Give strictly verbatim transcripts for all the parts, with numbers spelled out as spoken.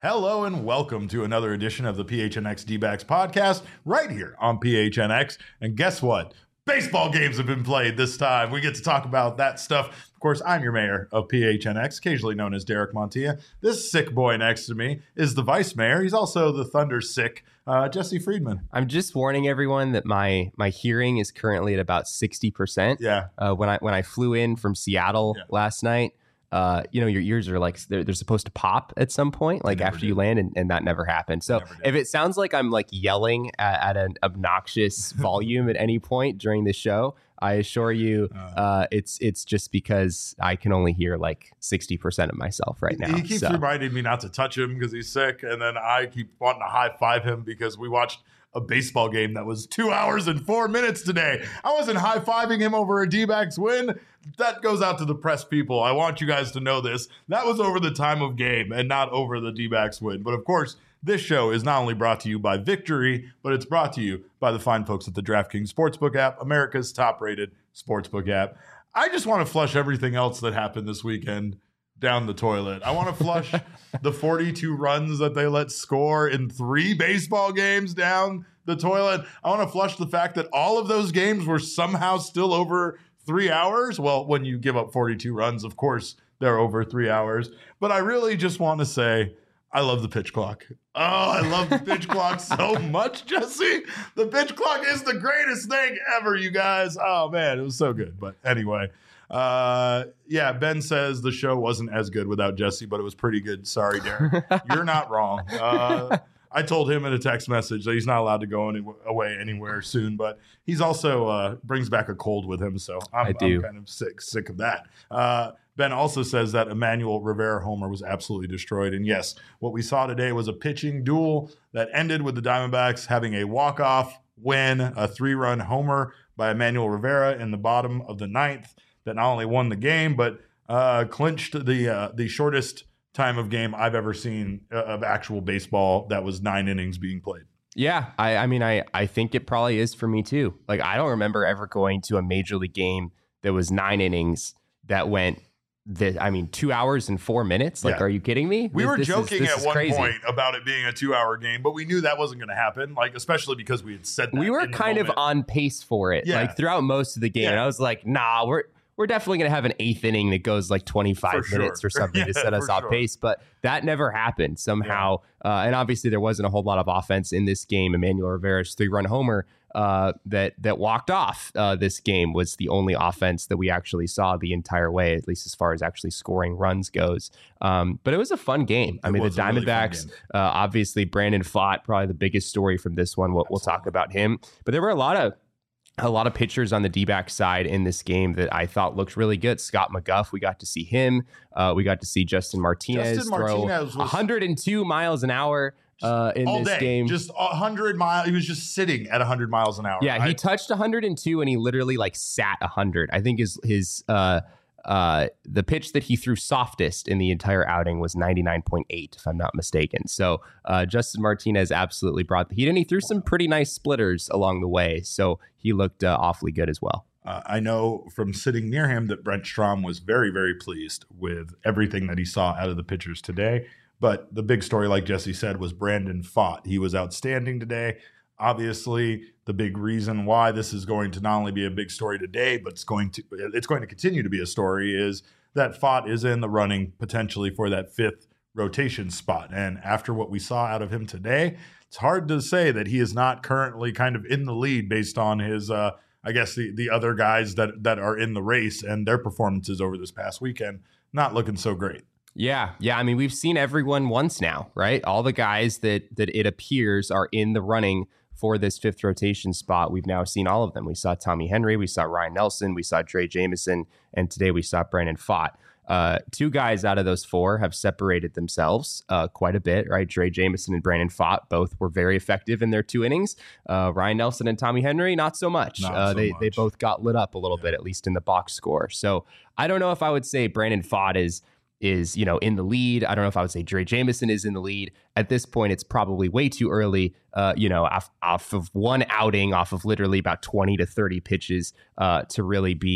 Hello and welcome to another edition of the P H N X D-Backs podcast right here on P H N X. And guess what? Baseball games have been played this time. We get to talk about that stuff. Of course, I'm your mayor of P H N X, occasionally known as Derek Montilla. This sick boy next to me is the vice mayor. He's also the Thunder sick, uh, Jesse Friedman. I'm just warning everyone that my my hearing is currently at about sixty percent. Yeah. Uh, when I when I flew in from Seattle yeah. last night, uh, you know, your ears are like, they're, they're supposed to pop at some point, like after did. you land, and, and that never happened. So never if it sounds like I'm like yelling at, at an obnoxious volume at any point during the show, I assure you, uh, it's it's just because I can only hear like sixty percent of myself right now. He keeps so. reminding me not to touch him because he's sick, and then I keep wanting to high five him because we watched a baseball game that was two hours and four minutes today. I wasn't high fiving him over a D-backs win. That goes out to the press people. I want you guys to know this. That was over the time of game and not over the D-backs win. But of course, this show is not only brought to you by Victory, but it's brought to you by the fine folks at the DraftKings Sportsbook app, America's top-rated sportsbook app. I just want to flush everything else that happened this weekend down the toilet. I want to flush the forty-two runs that they let score in three baseball games down the toilet. I want to flush the fact that all of those games were somehow still over three hours. Well, when you give up forty-two runs, of course, they're over three hours. But I really just want to say, I love the pitch clock. Oh, I love the pitch clock so much, Jesse. The pitch clock is the greatest thing ever, you guys. Oh, man, it was so good. But anyway, uh, yeah, Ben says the show wasn't as good without Jesse, but it was pretty good. Sorry, Derek. You're not wrong. Uh, I told him in a text message that he's not allowed to go any, away anywhere soon, but he's also uh, brings back a cold with him, so I'm, I do. I'm kind of sick sick of that. Uh, Ben also says that Emmanuel Rivera homer was absolutely destroyed, and yes, what we saw today was a pitching duel that ended with the Diamondbacks having a walk-off win, a three-run homer by Emmanuel Rivera in the bottom of the ninth that not only won the game, but uh, clinched the uh, the shortest time of game I've ever seen uh, of actual baseball that was nine innings being played. Yeah, I, I mean, I, I think it probably is for me too. Like, I don't remember ever going to a major league game that was nine innings that went, the, I mean, two hours and four minutes. Like, yeah. Are you kidding me? We this, were this joking is, at one crazy. point about it being a two-hour game, but we knew that wasn't going to happen, like, especially because we had said that. We were in the kind moment. of on pace for it, yeah. like, throughout most of the game. Yeah. And I was like, nah, we're... We're definitely going to have an eighth inning that goes like twenty-five sure. minutes or something yeah, to set us off sure. pace. But that never happened somehow. Yeah. Uh, and obviously there wasn't a whole lot of offense in this game. Emmanuel Rivera's three-run homer uh, that that walked off uh, this game was the only offense that we actually saw the entire way, at least as far as actually scoring runs goes. Um, but it was a fun game. I it mean, the Diamondbacks, really uh, obviously Brandon Pfaadt, probably the biggest story from this one. We'll, we'll talk about him. But there were a lot of A lot of pitchers on the D-back side in this game that I thought looked really good. Scott McGough, we got to see him. Uh, we got to see Justin Martinez Justin throw Martinez was one hundred two miles an hour uh, in all this day. game. Just one hundred miles. He was just sitting at one hundred miles an hour. Yeah, I, he touched one hundred two and he literally like sat one hundred. I think his his uh, uh, the pitch that he threw softest in the entire outing was ninety-nine point eight, if I'm not mistaken. So uh, Justin Martinez absolutely brought the heat, and he threw some pretty nice splitters along the way. So he looked uh, awfully good as well. Uh, I know from sitting near him that Brent Strom was very, very pleased with everything that he saw out of the pitchers today. But the big story, like Jesse said, was Brandon Pfaadt. He was outstanding today. Obviously, the big reason why this is going to not only be a big story today, but it's going to it's going to continue to be a story is that Pfaadt is in the running potentially for that fifth rotation spot. And after what we saw out of him today, it's hard to say that he is not currently kind of in the lead based on his, uh, I guess, the, the other guys that, that are in the race and their performances over this past weekend not looking so great. Yeah, yeah. I mean, we've seen everyone once now, right? All the guys that that it appears are in the running for this fifth rotation spot. We've now seen all of them. We saw Tommy Henry, we saw Ryan Nelson, we saw Drey Jameson, and today we saw Brandon Pfaadt. Uh, two guys out of those four have separated themselves uh, quite a bit, right? Drey Jameson and Brandon Pfaadt both were very effective in their two innings. Uh, Ryan Nelson and Tommy Henry, not so much. Not uh, so they much. they both got lit up a little Yeah. bit, at least in the box score. So I don't know if I would say Brandon Pfaadt is is, you know, in the lead. I don't know if I would say Drey Jameson is in the lead. At this point, it's probably way too early, uh, you know, off, off of one outing, off of literally about twenty to thirty pitches uh, to really be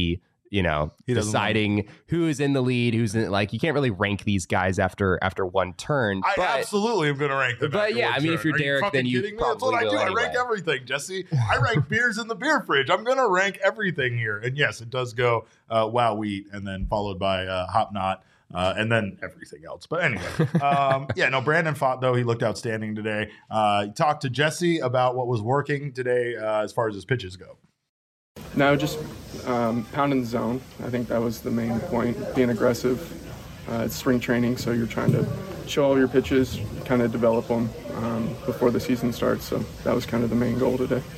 you know, He doesn't deciding who is in the lead, who's in, like, you can't really rank these guys after after one turn. I but, absolutely am going to rank them. But yeah, I mean, turn. if you're Are Derek, you then you kidding me? probably That's what I do. will I anyway. rank everything, Jesse. I rank beers in the beer fridge. I'm going to rank everything here. And yes, it does go uh, Wow Wheat and then followed by uh, Hop Knot. Uh, and then everything else. But anyway, um, yeah, no, Brandon Pfaadt, though, he looked outstanding today. Uh, he talked to Jesse about what was working today uh, as far as his pitches go. No, just um, pounding the zone. I think that was the main point, being aggressive. Uh, it's spring training, so you're trying to show all your pitches, kind of develop them um, before the season starts. So that was kind of the main goal today.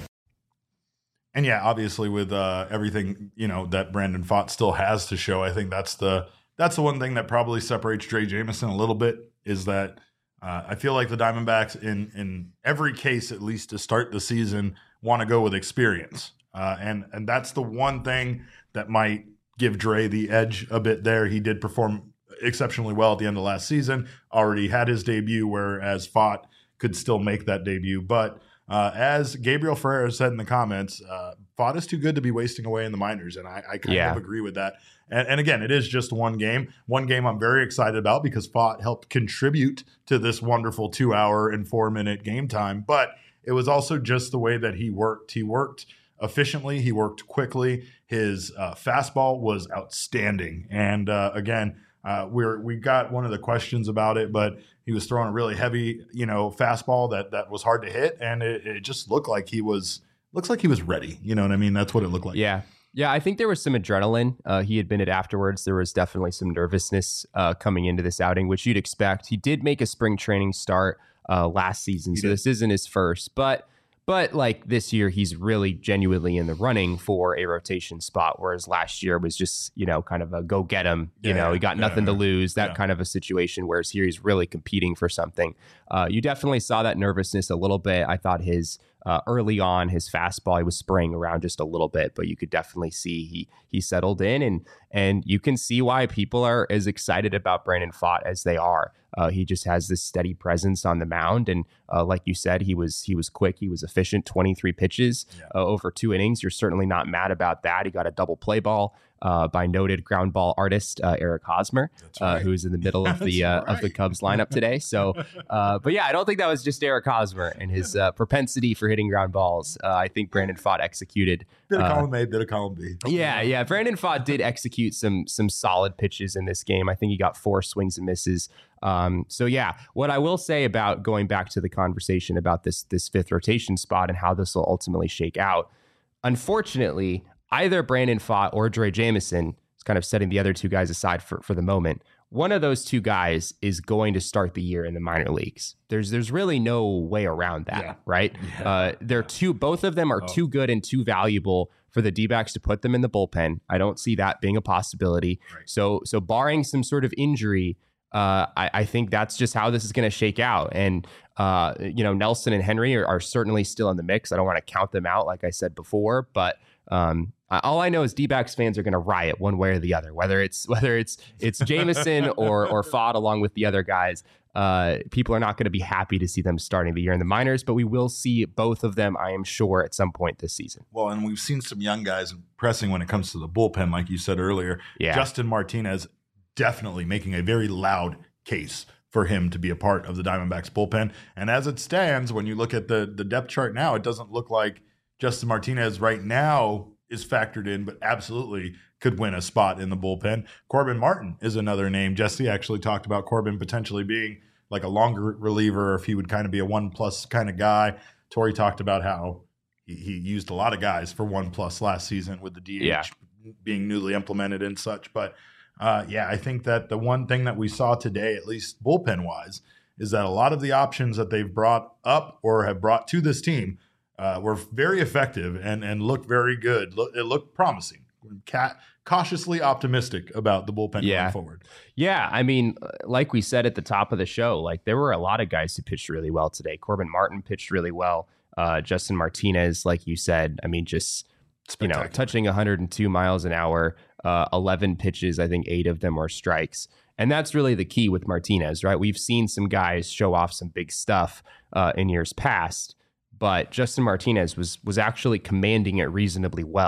And yeah, obviously with uh, everything, you know, that Brandon Pfaadt still has to show, I think that's the that's the one thing that probably separates Drey Jameson a little bit is that uh, I feel like the Diamondbacks in in every case, at least to start the season, want to go with experience. Uh, and and that's the one thing that might give Drey the edge a bit there. He did perform exceptionally well at the end of last season, already had his debut, whereas Pfaadt could still make that debut. But uh, as Gabriel Ferreira said in the comments, uh, Pfaadt is too good to be wasting away in the minors, and I, I kind Yeah. of agree with that. And, and again, it is just one game. One game I'm very excited about because Pfaadt helped contribute to this wonderful two-hour and four-minute game time. But it was also just the way that he worked. He worked efficiently. He worked quickly. His uh, fastball was outstanding. And uh, again, uh, we're we got one of the questions about it, but he was throwing a really heavy, you know, fastball that that was hard to hit, and it, it just looked like he was looks like he was ready. You know what I mean? That's what it looked like. Yeah. Yeah, I think there was some adrenaline. Uh, he admitted afterwards there was definitely some nervousness uh, coming into this outing, which you'd expect. He did make a spring training start uh, last season, He so did. this isn't his first. But but like this year, he's really genuinely in the running for a rotation spot, whereas last year was just, you know, kind of a go get him. You Yeah, know, yeah, he got yeah, nothing yeah. to lose, that Yeah. kind of a situation, whereas here he's really competing for something. Uh, you definitely saw that nervousness a little bit. I thought his Uh, early on, his fastball, he was spraying around just a little bit, but you could definitely see he he settled in, and and you can see why people are as excited about Brandon Pfaadt as they are. Uh, he just has this steady presence on the mound, and uh, like you said, he was he was quick, he was efficient. twenty-three pitches Yeah. uh, over two innings. You're certainly not mad about that. He got a double play ball uh, by noted ground ball artist uh, Eric Hosmer, That's uh, right. who's in the middle of the uh, That's of the right. Cubs lineup today. So, uh, but yeah, I don't think that was just Eric Hosmer and his uh, propensity for hitting ground balls. Uh, I think Brandon Pfaadt executed. Bit of uh, column A, bit of column B. Yeah, yeah. Brandon Pfaadt did execute some some solid pitches in this game. I think he got four swings and misses. Um, so yeah, what I will say about going back to the conversation about this this fifth rotation spot and how this will ultimately shake out, unfortunately, either Brandon Pfaadt or Drey Jameson, is kind of setting the other two guys aside for, for the moment, one of those two guys is going to start the year in the minor leagues. There's there's really no way around that, Yeah. right? Yeah. Uh, they're too both of them are Oh. too good and too valuable for the D-backs to put them in the bullpen. I don't see that being a possibility. Right. So so barring some sort of injury, uh, I, I think that's just how this is going to shake out. And uh, you know, Nelson and Henry are, are certainly still in the mix. I don't want to count them out, like I said before, but um, all I know is D-backs fans are going to riot one way or the other, whether it's whether it's it's Jameson or or Pfaadt along with the other guys. Uh, people are not going to be happy to see them starting the year in the minors, but we will see both of them, I am sure, at some point this season. Well, and we've seen some young guys pressing when it comes to the bullpen, like you said earlier. Yeah. Justin Martinez definitely making a very loud case for him to be a part of the Diamondbacks bullpen. And as it stands, when you look at the the depth chart now, it doesn't look like Justin Martinez right now is factored in, but absolutely could win a spot in the bullpen. Corbin Martin is another name. Jesse actually talked about Corbin potentially being like a longer reliever, or if he would kind of be a one plus kind of guy. Torey talked about how he, he used a lot of guys for one plus last season with the D H Yeah. being newly implemented and such. But uh, yeah, I think that the one thing that we saw today, at least bullpen wise, is that a lot of the options that they've brought up or have brought to this team Uh, were very effective and and looked very good. Look, it looked promising. Ca- cautiously optimistic about the bullpen Yeah. going forward. Yeah, I mean, like we said at the top of the show, like there were a lot of guys who pitched really well today. Corbin Martin pitched really well. Uh, Justin Martinez, like you said, I mean, just you know, Spectacular. touching one hundred two miles an hour, uh, eleven pitches. I think eight of them were strikes. And that's really the key with Martinez, right? We've seen some guys show off some big stuff uh, in years past, but Justin Martinez was was actually commanding it reasonably well.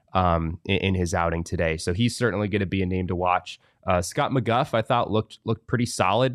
um, in, in his outing today. So he's certainly going to be a name to watch. Uh, Scott McGough, I thought looked looked pretty solid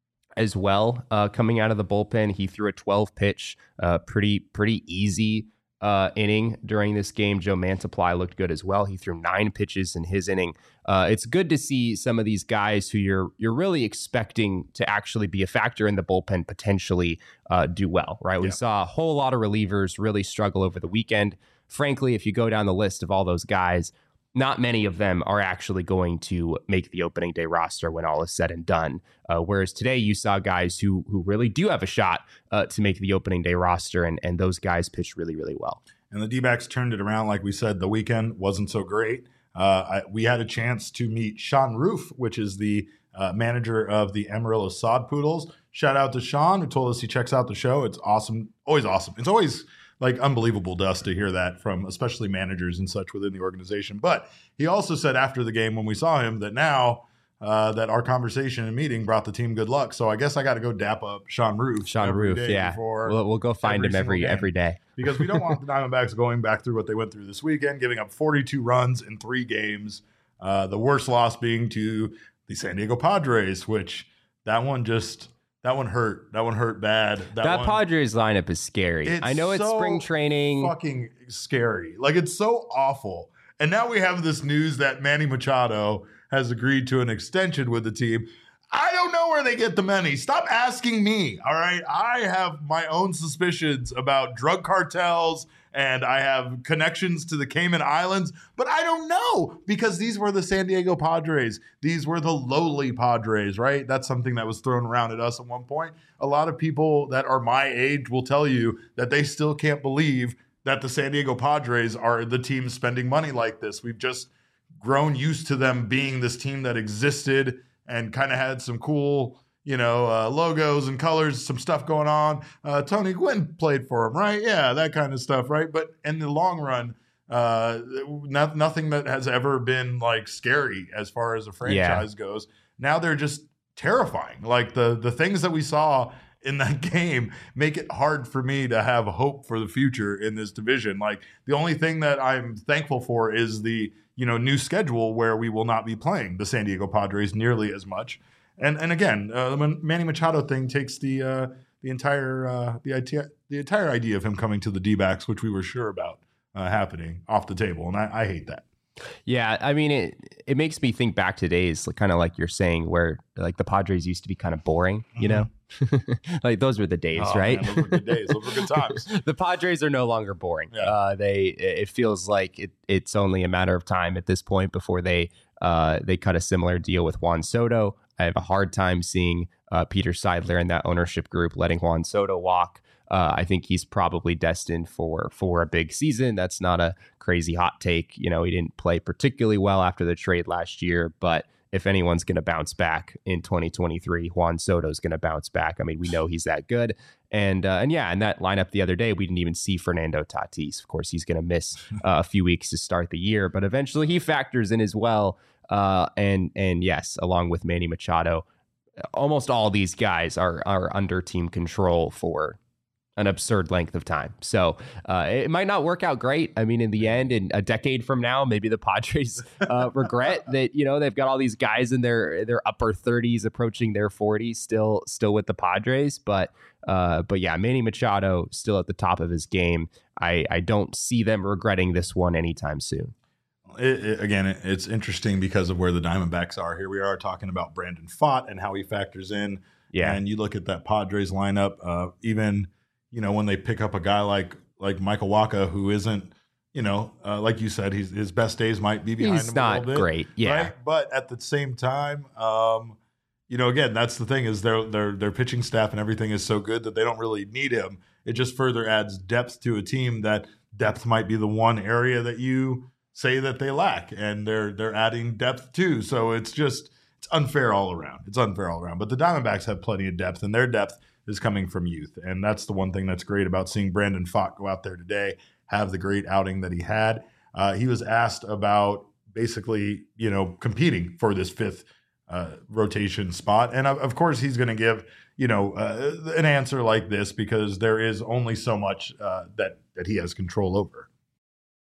as well uh, coming out of the bullpen. He threw a twelve pitch, uh, pretty pretty easy uh, inning during this game. Joe Mantiply looked good as well. He threw nine pitches in his inning. Uh, it's good to see some of these guys who you're you're really expecting to actually be a factor in the bullpen potentially uh, do well, right? We yeah. saw a whole lot of relievers really struggle over the weekend. Frankly, if you go down the list of all those guys, not many of them are actually going to make the opening day roster when all is said and done. Uh, whereas today you saw guys who who really do have a shot uh, to make the opening day roster, and, and those guys pitched really, really well. And the D-backs turned it around. Like we said, the weekend wasn't so great. Uh, I, we had a chance to meet Sean Roof, which is the uh, manager of the Amarillo Sod Poodles. Shout out to Sean, who told us he checks out the show. It's awesome. Always awesome. It's always like unbelievable to us to hear that from especially managers and such within the organization. But he also said after the game when we saw him that now uh, that our conversation and meeting brought the team good luck. So I guess I got to go dap up Sean Roof. Sean Roof, yeah. We'll, we'll go find him every every day. Because we don't want the Diamondbacks going back through what they went through this weekend, giving up forty-two runs in three games. Uh, the worst loss being to the San Diego Padres, which that one just... That one hurt. That one hurt bad. That, that one, Padres lineup is scary. I know it's so spring training. Fucking scary. Like, it's so awful. And now we have this news that Manny Machado has agreed to an extension with the team. I don't know where they get the money. Stop asking me. All right. I have my own suspicions about drug cartels and I have connections to the Cayman Islands, but I don't know because these were the San Diego Padres. These were the lowly Padres, right? That's something that was thrown around at us at one point. A lot of people that are my age will tell you that they still can't believe that the San Diego Padres are the team spending money like this. We've just grown used to them being this team that existed and kind of had some cool, you know, uh, logos and colors, some stuff going on. Uh, Tony Gwynn played for him, right? Yeah, that kind of stuff, right? But in the long run, uh, not, nothing that has ever been like scary as far as a franchise yeah. goes. Now they're just terrifying. Like the the things that we saw in that game make it hard for me to have hope for the future in this division. Like the only thing that I'm thankful for is the, you know, new schedule where we will not be playing the San Diego Padres nearly as much. And and again, uh, the Manny Machado thing takes the uh, the entire uh, the idea the entire idea of him coming to the D-backs, which we were sure about uh, happening, off the table, and I, I hate that. Yeah, I mean it. It makes me think back to days, kind of like you're saying, where like the Padres used to be kind of boring, you mm-hmm. know, like those were the days, oh, right? Man, those were good days. Those were good times. The Padres are no longer boring. Yeah. Uh, they it feels like it, it's only a matter of time at this point before they uh, they cut a similar deal with Juan Soto. I have a hard time seeing uh, Peter Seidler and that ownership group letting Juan Soto walk. Uh, I think he's probably destined for for a big season. That's not a crazy hot take. You know, he didn't play particularly well after the trade last year, but if anyone's going to bounce back in twenty twenty-three, Juan Soto's going to bounce back. I mean, we know he's that good. And uh, and yeah, in that lineup the other day, we didn't even see Fernando Tatis. Of course, he's going to miss uh, a few weeks to start the year, but eventually he factors in as well. Uh, and and yes, along with Manny Machado, almost all these guys are are under team control for an absurd length of time. So uh, it might not work out great. I mean, in the end, in a decade from now, maybe the Padres uh, regret that, you know, they've got all these guys in their their upper thirties approaching their forties still still with the Padres. But uh, but yeah, Manny Machado still at the top of his game. I, I don't see them regretting this one anytime soon. It, it, again, it, it's interesting because of where the Diamondbacks are. Here we are talking about Brandon Pfaadt and how he factors in. Yeah. And you look at that Padres lineup, uh, even, you know, when they pick up a guy like like Michael Wacha, who isn't, you know, uh, like you said, he's, his best days might be behind he's him not a little bit. Great. Yeah. Right? But at the same time, um, you know, again, that's the thing is their their their pitching staff and everything is so good that they don't really need him. It just further adds depth to a team that depth might be the one area that you say that they lack, and they're they're adding depth too. So it's just it's unfair all around. It's unfair all around. But the Diamondbacks have plenty of depth, and their depth is coming from youth, and that's the one thing that's great about seeing Brandon Pfaadt go out there today, have the great outing that he had. Uh, he was asked about basically, you know, competing for this fifth uh, rotation spot, and of, of course he's going to give, you know, uh, an answer like this because there is only so much uh, that that he has control over.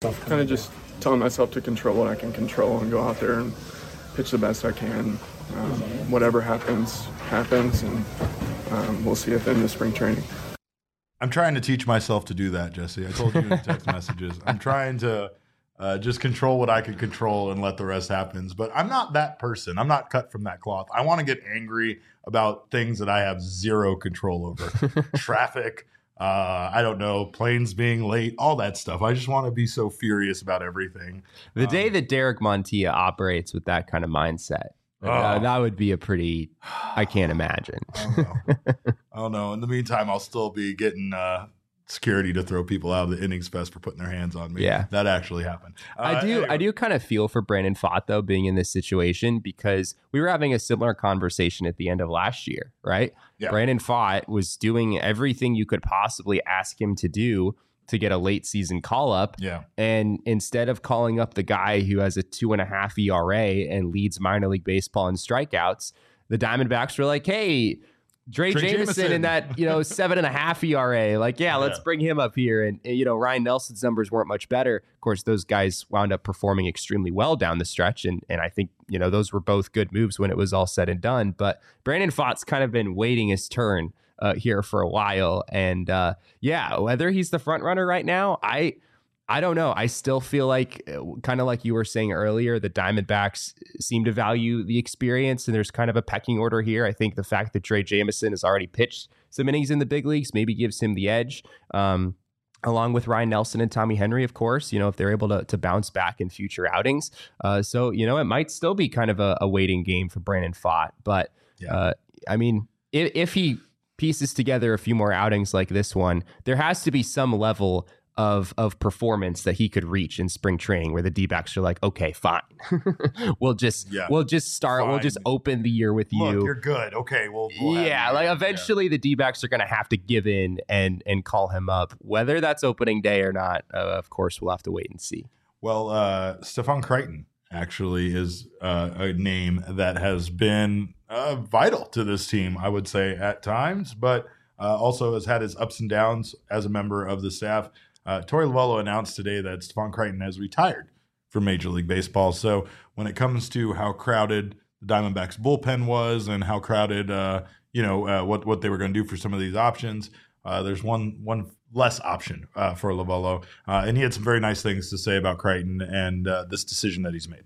Kind of just telling myself to control what I can control and go out there and pitch the best I can. Um, whatever happens, happens, and um, we'll see at the end of spring training. I'm trying to teach myself to do that, Jesse. I told you in the text messages. I'm trying to uh, just control what I can control and let the rest happen. But I'm not that person. I'm not cut from that cloth. I want to get angry about things that I have zero control over. Traffic, uh, I don't know, planes being late, all that stuff. I just want to be so furious about everything. The um, day that Derek Montilla operates with that kind of mindset, Oh. Uh, that would be a pretty, I can't imagine. I don't know. I don't know. In the meantime, I'll still be getting uh, security to throw people out of the innings fest for putting their hands on me. Yeah. That actually happened. Uh, I do anyway. I do kind of feel for Brandon Pfaadt, though, being in this situation, because we were having a similar conversation at the end of last year, right? Yeah. Brandon Pfaadt was doing everything you could possibly ask him to do to get a late season call up. Yeah. And instead of calling up the guy who has a two and a half E R A and leads minor league baseball in strikeouts, the Diamondbacks were like, hey, Dre, Dre Jameson, Jameson. in that, you know, seven and a half E R A. Like, yeah, let's Yeah. bring him up here. And, you know, Ryan Nelson's numbers weren't much better. Of course, those guys wound up performing extremely well down the stretch. And, and I think, you know, those were both good moves when it was all said and done. But Brandon Pfaadt's kind of been waiting his turn uh, here for a while. And uh, yeah, whether he's the front runner right now, I I don't know. I still feel like, kind of like you were saying earlier, the Diamondbacks seem to value the experience, and there's kind of a pecking order here. I think the fact that Dre Jameson has already pitched some innings in the big leagues maybe gives him the edge, um, along with Ryan Nelson and Tommy Henry, of course, you know, if they're able to, to bounce back in future outings. Uh, so, you know, it might still be kind of a, a waiting game for Brandon Pfaadt. But, Yeah. uh, I mean, if, if he pieces together a few more outings like this one, there has to be some level of of performance that he could reach in spring training where the D-backs are like, okay, fine. we'll just Yeah. we'll just start, we'll Fine. just open the year with Look, you. you're good. Okay, well, we'll have Yeah, you. like Yeah. eventually the D-backs are going to have to give in and and call him up. Whether that's opening day or not, uh, of course, we'll have to wait and see. Well, uh, Stefan Crichton actually is uh, a name that has been uh, vital to this team, I would say, at times, but uh, also has had his ups and downs as a member of the staff. Uh, Torey Lovullo announced today that Stefan Crichton has retired from Major League Baseball. So when it comes to how crowded the Diamondbacks bullpen was and how crowded, uh, you know, uh, what what they were going to do for some of these options, uh, there's one one less option uh, for Lovullo, uh, and he had some very nice things to say about Crichton and uh, this decision that he's made.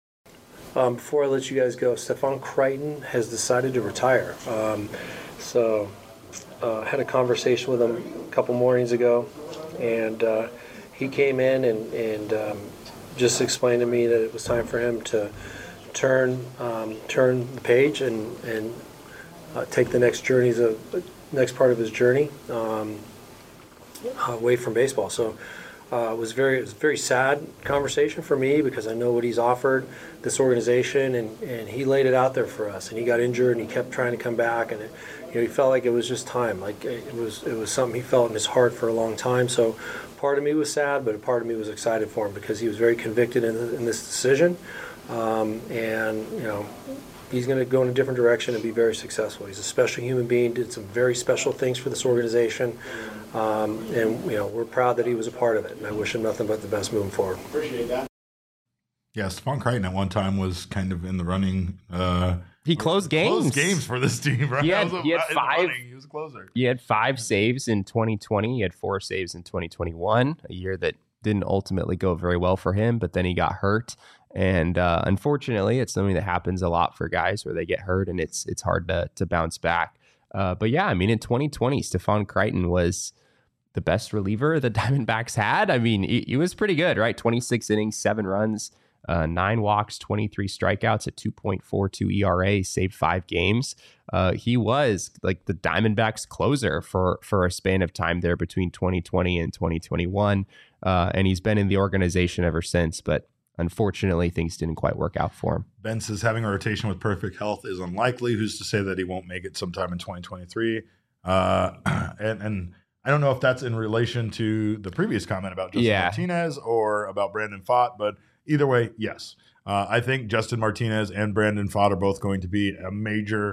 Um, before I let you guys go, Stefan Crichton has decided to retire. Um, so I uh, had a conversation with him a couple mornings ago, and uh, he came in and, and um, just explained to me that it was time for him to turn um, turn the page and, and uh, take the next journeys of next part of his journey um, away from baseball. So uh, it was very it was a very sad conversation for me because I know what he's offered this organization, and, and he laid it out there for us. And he got injured and he kept trying to come back, and it, you know, he felt like it was just time. Like it was it was something he felt in his heart for a long time. So part of me was sad, but a part of me was excited for him because he was very convicted in, in this decision. Um, and, you know, he's going to go in a different direction and be very successful. He's a special human being, did some very special things for this organization. Um, and, you know, we're proud that he was a part of it. And I wish him nothing but the best moving forward. Appreciate that. Yeah, Stefan Crichton at one time was kind of in the running. Uh, He closed games. Closed games for this team, right? He had- That was a- he had in the five- running, He was a closer. He had five saves in twenty twenty. He had four saves in twenty twenty-one, a year that didn't ultimately go very well for him, but then he got hurt. And uh, unfortunately, it's something that happens a lot for guys where they get hurt and it's it's hard to to bounce back. Uh, but yeah, I mean, in twenty twenty, Stefan Crichton was the best reliever the Diamondbacks had. I mean, he, he was pretty good, right? twenty-six innings, seven runs, uh, nine walks, twenty-three strikeouts at two point four two E R A, saved five games. Uh, he was like the Diamondbacks closer for, for a span of time there between twenty twenty and twenty twenty-one. Uh, and he's been in the organization ever since, but unfortunately, things didn't quite work out for him. Ben says having a rotation with perfect health is unlikely. Who's to say that he won't make it sometime in twenty twenty-three? Uh, and and I don't know if that's in relation to the previous comment about Justin Yeah. Martinez or about Brandon Pfaadt, but either way, yes. Uh, I think Justin Martinez and Brandon Pfaadt are both going to be a major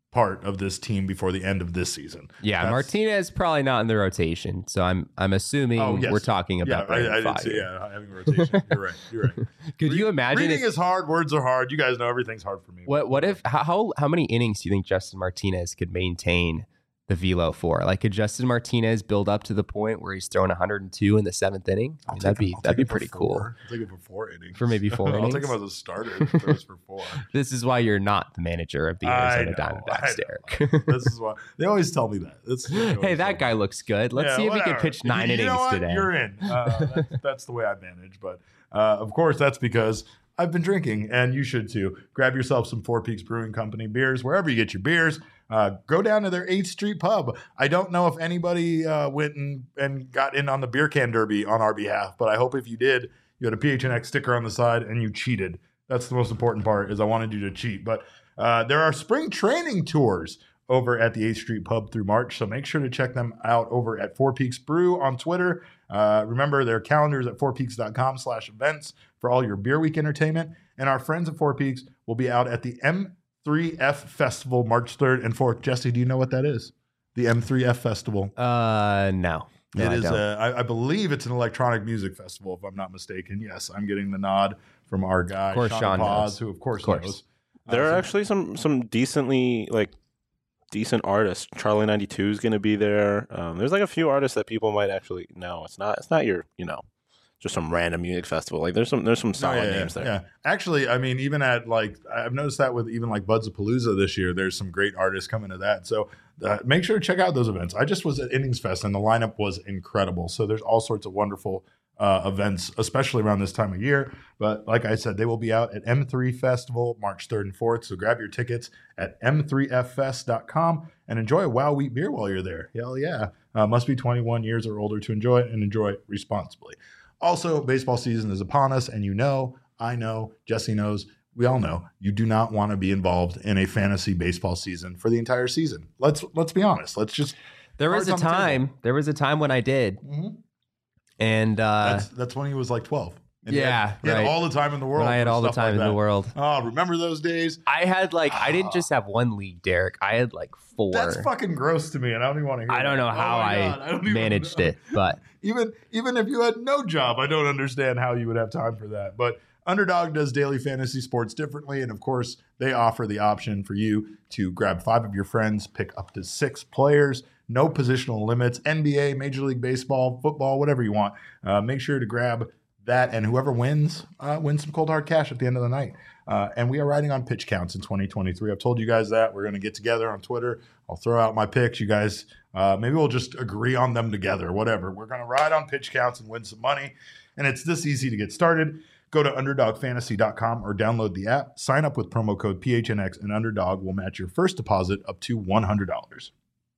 part of this team before the end of this season. Yeah, That's, Martinez probably not in the rotation, so I'm I'm assuming oh, yes. we're talking about yeah, that. I, I in did five. say, yeah, having a rotation. You're right. You're right. Could you imagine Reading if, is hard. Words are hard. You guys know everything's hard for me. what what if how how many innings do you think Justin Martinez could maintain the velo for? Like, could Justin Martinez build up to the point where he's throwing one hundred two in the seventh inning? I mean, that'd be I'll that'd be take him pretty for cool. four. I'll take him for four innings. For maybe four I'll innings? take him as a starter. If he throws for four. This is why you're not the manager of the I Arizona know, Diamondbacks, I Derek. know. This is why they always tell me that. This is what they Hey, always tell that me. guy looks good. Let's Yeah, see if he whatever. can pitch nine you innings know what? today. You're in. Uh, that's, that's the way I manage. But uh, of course, that's because I've been drinking, and you should too. Grab yourself some Four Peaks Brewing Company beers wherever you get your beers. Uh, go down to their eighth Street Pub. I don't know if anybody uh, went and, and got in on the beer can derby on our behalf, but I hope if you did, you had a P H N X sticker on the side and you cheated. That's the most important part, is I wanted you to cheat. But uh, there are spring training tours over at the eighth Street Pub through March, so make sure to check them out over at Four Peaks Brew on Twitter. Uh, remember, their calendars at fourpeaks.com slash events for all your Beer Week entertainment. And our friends at Four Peaks will be out at the M three F Festival March third and fourth. Jesse, do you know what that is? The M three F Festival. Uh, no. No, it I is. don't. A, I, I believe it's an electronic music festival, if I'm not mistaken. Yes, I'm getting the nod from our guy, Of course, Sean Sean Paz, knows. who of course, Of course. knows. There Uh, are so- actually some some decently like decent artists. Charlie ninety-two is going to be there. Um, there's like a few artists that people might actually know. It's not it's not your you know just some random music festival. Like there's some there's some No, solid yeah, names yeah, there. Yeah, actually, I mean, even at like, I've noticed that with even like Buds of Palooza this year, there's some great artists coming to that. So uh, make sure to check out those events. I just was at Innings Fest and the lineup was incredible. So there's all sorts of wonderful uh, events, especially around this time of year. But like I said, they will be out at M three Festival March third and fourth. So grab your tickets at m three f fest dot com and enjoy a Wow Wheat beer while you're there. Hell yeah. Uh, must be twenty-one years or older to enjoy it, and enjoy it responsibly. Also, baseball season is upon us, and you know, I know, Jesse knows, we all know, you do not want to be involved in a fantasy baseball season for the entire season. Let's let's be honest. Let's just There was a cards on the table. time. There was a time when I did, Mhm. and uh, That's that's when he was like twelve. And he Yeah, had, he had right. all the time in the world. when I had for all the stuff time like in the that. world. Oh, remember those days? I had like I didn't just have one league, Derek. I had like four. That's fucking gross to me, and I don't even want to hear. I don't that. know Oh how my I, God, don't even managed know. it, but Even even if you had no job, I don't understand how you would have time for that. But Underdog does daily fantasy sports differently, and of course, they offer the option for you to grab five of your friends, pick up to six players, no positional limits, N B A, Major League Baseball, football, whatever you want. Uh, make sure to grab that, and whoever wins uh, wins some cold hard cash at the end of the night. Uh, and we are riding on pitch counts in twenty twenty-three. I've told you guys that. We're going to get together on Twitter. I'll throw out my picks. You guys, uh, maybe we'll just agree on them together, whatever. We're going to ride on pitch counts and win some money. And it's this easy to get started. Go to underdog fantasy dot com or download the app. Sign up with promo code P H N X, and Underdog will match your first deposit up to one hundred dollars.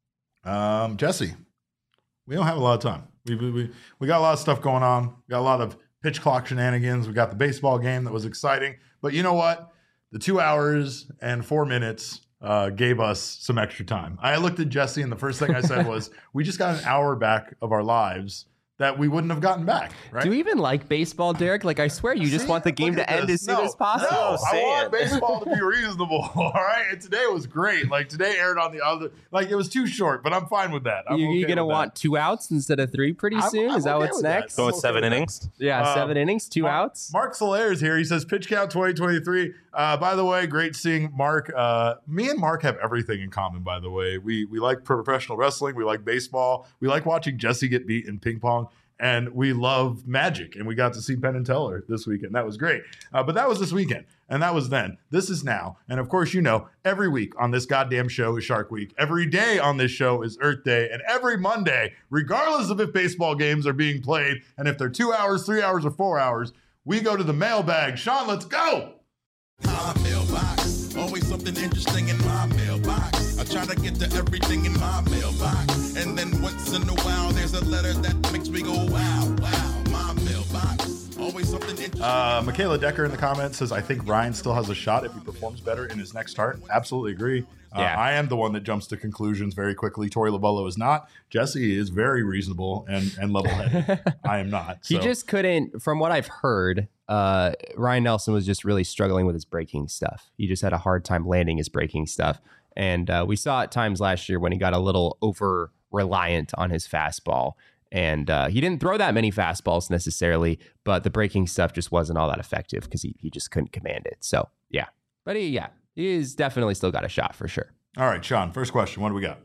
Um, Jesse, we don't have a lot of time. We, we, we, we got a lot of stuff going on. We got a lot of pitch clock shenanigans. We got the baseball game that was exciting. But you know what? The two hours and four minutes uh, gave us some extra time. I looked at Jesse, and the first thing I said was, we just got an hour back of our lives that we wouldn't have gotten back, right? do you even like baseball, Derek? Like, I swear you just See? want the game Look to at end this. as soon No, as possible. No, I Say want it. baseball to be reasonable, all right? And today was great. Like, today aired on the other, like, it was too short, but I'm fine with that. I'm you, okay you gonna with want two outs instead of three pretty I'm- soon? I'm Is that okay what's with that. next? Going okay seven with that. innings. Yeah, Um, seven innings, two Mark, outs. Mark Solaire is here. He says Pitch Count twenty twenty-three. Uh, by the way, great seeing Mark. Uh, me and Mark have everything in common, by the way. We we like professional wrestling. We like baseball. We like watching Jesse get beat in ping pong. And we love Magic. And we got to see Penn and Teller this weekend. That was great. Uh, but that was this weekend. And that was then. This is now. And of course, you know, every week on this goddamn show is Shark Week. Every day on this show is Earth Day. And every Monday, regardless of if baseball games are being played and if they're two hours, three hours, or four hours, we go to the mailbag. Sean, let's go. My mailbox, always something interesting in my mailbox. I try to get to everything in my mailbox, and then once in a while there's a letter that makes me go wow, wow. My mailbox, always something interesting. Uh, Michaela Decker in the comments says, I think Ryan still has a shot if he performs better in his next start. Absolutely agree. Uh, Yeah. I am the one that jumps to conclusions very quickly. Tori Lavello is not. Jesse is very reasonable and, and level-headed. I am not. He so. just couldn't, from what I've heard, uh, Ryan Nelson was just really struggling with his breaking stuff. He just had a hard time landing his breaking stuff. And uh, we saw at times last year when he got a little over reliant on his fastball. And uh, he didn't throw that many fastballs necessarily, but the breaking stuff just wasn't all that effective because he, he just couldn't command it. So, yeah. But he, yeah, he's definitely still got a shot for sure. All right, Sean, first question. What do we got?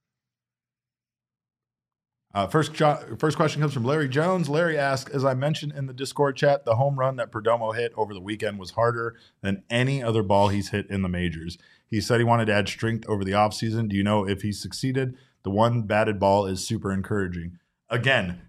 Uh, first, first question comes from Larry Jones. Larry asks, as I mentioned in the Discord chat, the home run that Perdomo hit over the weekend was harder than any other ball he's hit in the majors. He said he wanted to add strength over the offseason. Do you know if he succeeded? The one batted ball is super encouraging. Again,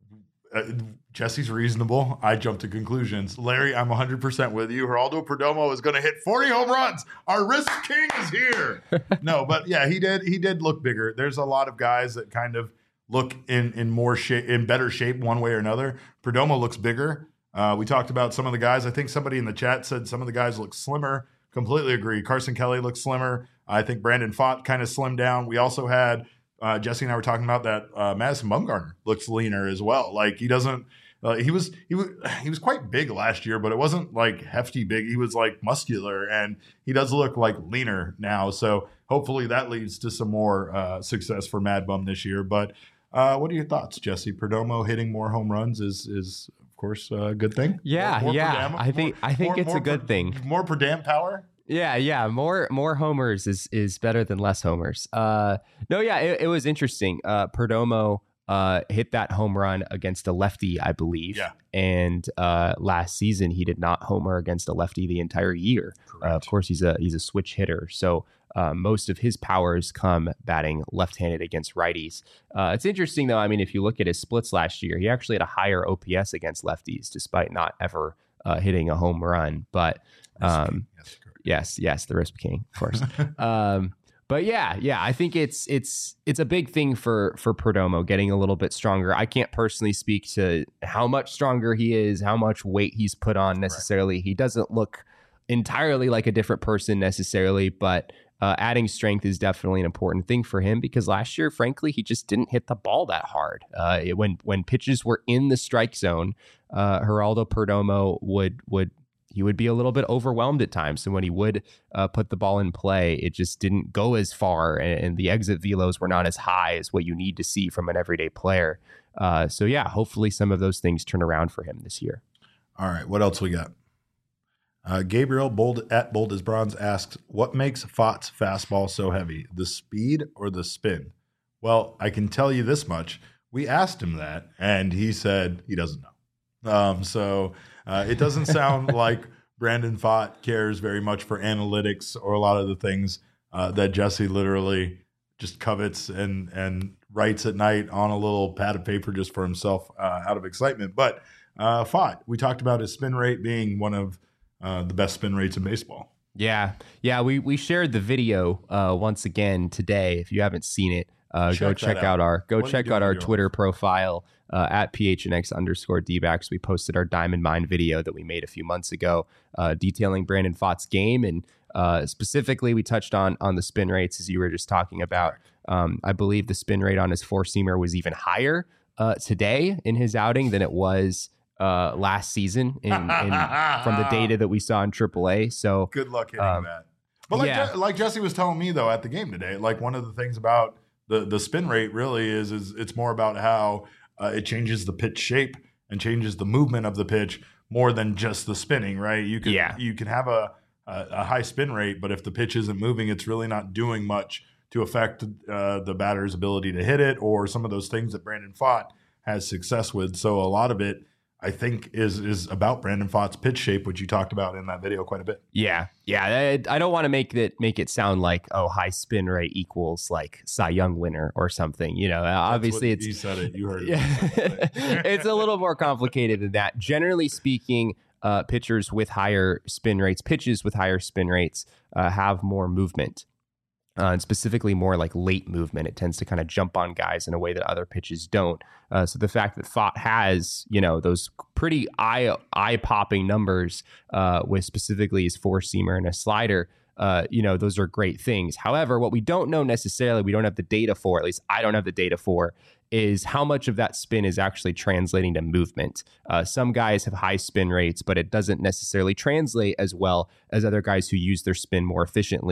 uh, Jesse's reasonable. I jumped to conclusions. Larry, I'm one hundred percent with you. Geraldo Perdomo is going to hit forty home runs. Our risk king is here. No, but yeah, he did. He did look bigger. There's a lot of guys that kind of look in in more shape, in better shape, one way or another. Perdomo looks bigger. Uh, we talked about some of the guys. I think somebody in the chat said some of the guys look slimmer. Completely agree. Carson Kelly looks slimmer. I think Brandon Pfaadt kind of slimmed down. We also had. Uh, Jesse and I were talking about that. Uh, Madison Bumgarner looks leaner as well. Like he doesn't. Uh, he was he was he was quite big last year, but it wasn't like hefty big. He was like muscular, and he does look like leaner now. So hopefully that leads to some more uh, success for Mad Bum this year. But uh, what are your thoughts, Jesse? Perdomo hitting more home runs is is of course a good thing. Yeah, more, more yeah. Perdam, I think more, I think more, it's more a good per, thing. More Perdam power. Yeah, yeah. More more homers is is better than less homers. Uh, no, yeah, it, it was interesting. Uh, Perdomo uh, hit that home run against a lefty, I believe. Yeah. And uh, last season he did not homer against a lefty the entire year. Uh, of course, he's a he's a switch hitter, so uh, most of his powers come batting left-handed against righties. Uh, it's interesting though. I mean, if you look at his splits last year, he actually had a higher O P S against lefties, despite not ever uh, hitting a home run. But um, yes, Yes, yes, the Risp King, of course. um, but yeah, yeah, I think it's it's it's a big thing for for Perdomo getting a little bit stronger. I can't personally speak to how much stronger he is, how much weight he's put on necessarily. Right. He doesn't look entirely like a different person necessarily, but uh, adding strength is definitely an important thing for him because last year, frankly, he just didn't hit the ball that hard. Uh, it, when when pitches were in the strike zone, uh, Geraldo Perdomo would would. He would be a little bit overwhelmed at times. So when he would uh, put the ball in play, it just didn't go as far. And, and the exit velos were not as high as what you need to see from an everyday player. Uh, so, yeah, hopefully some of those things turn around for him this year. All right. What else we got? Uh, Gabriel Bold at Bold as Bronze asks, what makes Pfaadt's fastball so heavy, the speed or the spin? Well, I can tell you this much. We asked him that, and he said he doesn't know. Um, so uh, it doesn't sound like Brandon Pfaadt cares very much for analytics or a lot of the things uh, that Jesse literally just covets and and writes at night on a little pad of paper just for himself uh, out of excitement. But uh, Pfaadt, we talked about his spin rate being one of uh, the best spin rates in baseball. Yeah, yeah, we we shared the video uh, once again today. If you haven't seen it, uh, check go check out. out our go what check out our Twitter life? profile uh, at P H N X underscore D-backs. We posted our Diamond Mine video that we made a few months ago, uh, detailing Brandon Pfaadt's game, and uh, specifically we touched on on the spin rates as you were just talking about. Um, I believe the spin rate on his four seamer was even higher uh, today in his outing than it was uh, last season in, in from the data that we saw in triple A. So good luck hitting um, that. But like yeah. Je- like Jesse was telling me though at the game today, like one of the things about the the spin rate really is is it's more about how uh, it changes the pitch shape and changes the movement of the pitch more than just the spinning, right? You can yeah. you can have a, a a high spin rate, but if the pitch isn't moving, it's really not doing much to affect uh, the batter's ability to hit it, or some of those things that Brandon Pfaadt has success with. So a lot of it, I think, is is about Brandon Pfaadt's pitch shape, which you talked about in that video quite a bit. Yeah, yeah. I, I don't want to make it make it sound like, oh, high spin rate equals like Cy Young winner or something. You know, That's obviously what it's you said it. You heard it. Yeah. It's a little more complicated than that. Generally speaking, uh, pitchers with higher spin rates, pitches with higher spin rates, uh, have more movement. Uh, and specifically more like late movement. It tends to kind of jump on guys in a way that other pitches don't. Uh, so the fact that Pfaadt has, you know, those pretty eye eye popping numbers uh, with specifically his four seamer and a slider, uh, you know, those are great things. However, what we don't know necessarily, we don't have the data for, at least I don't have the data for, is how much of that spin is actually translating to movement. Uh, some guys have high spin rates, but it doesn't necessarily translate as well as other guys who use their spin more efficiently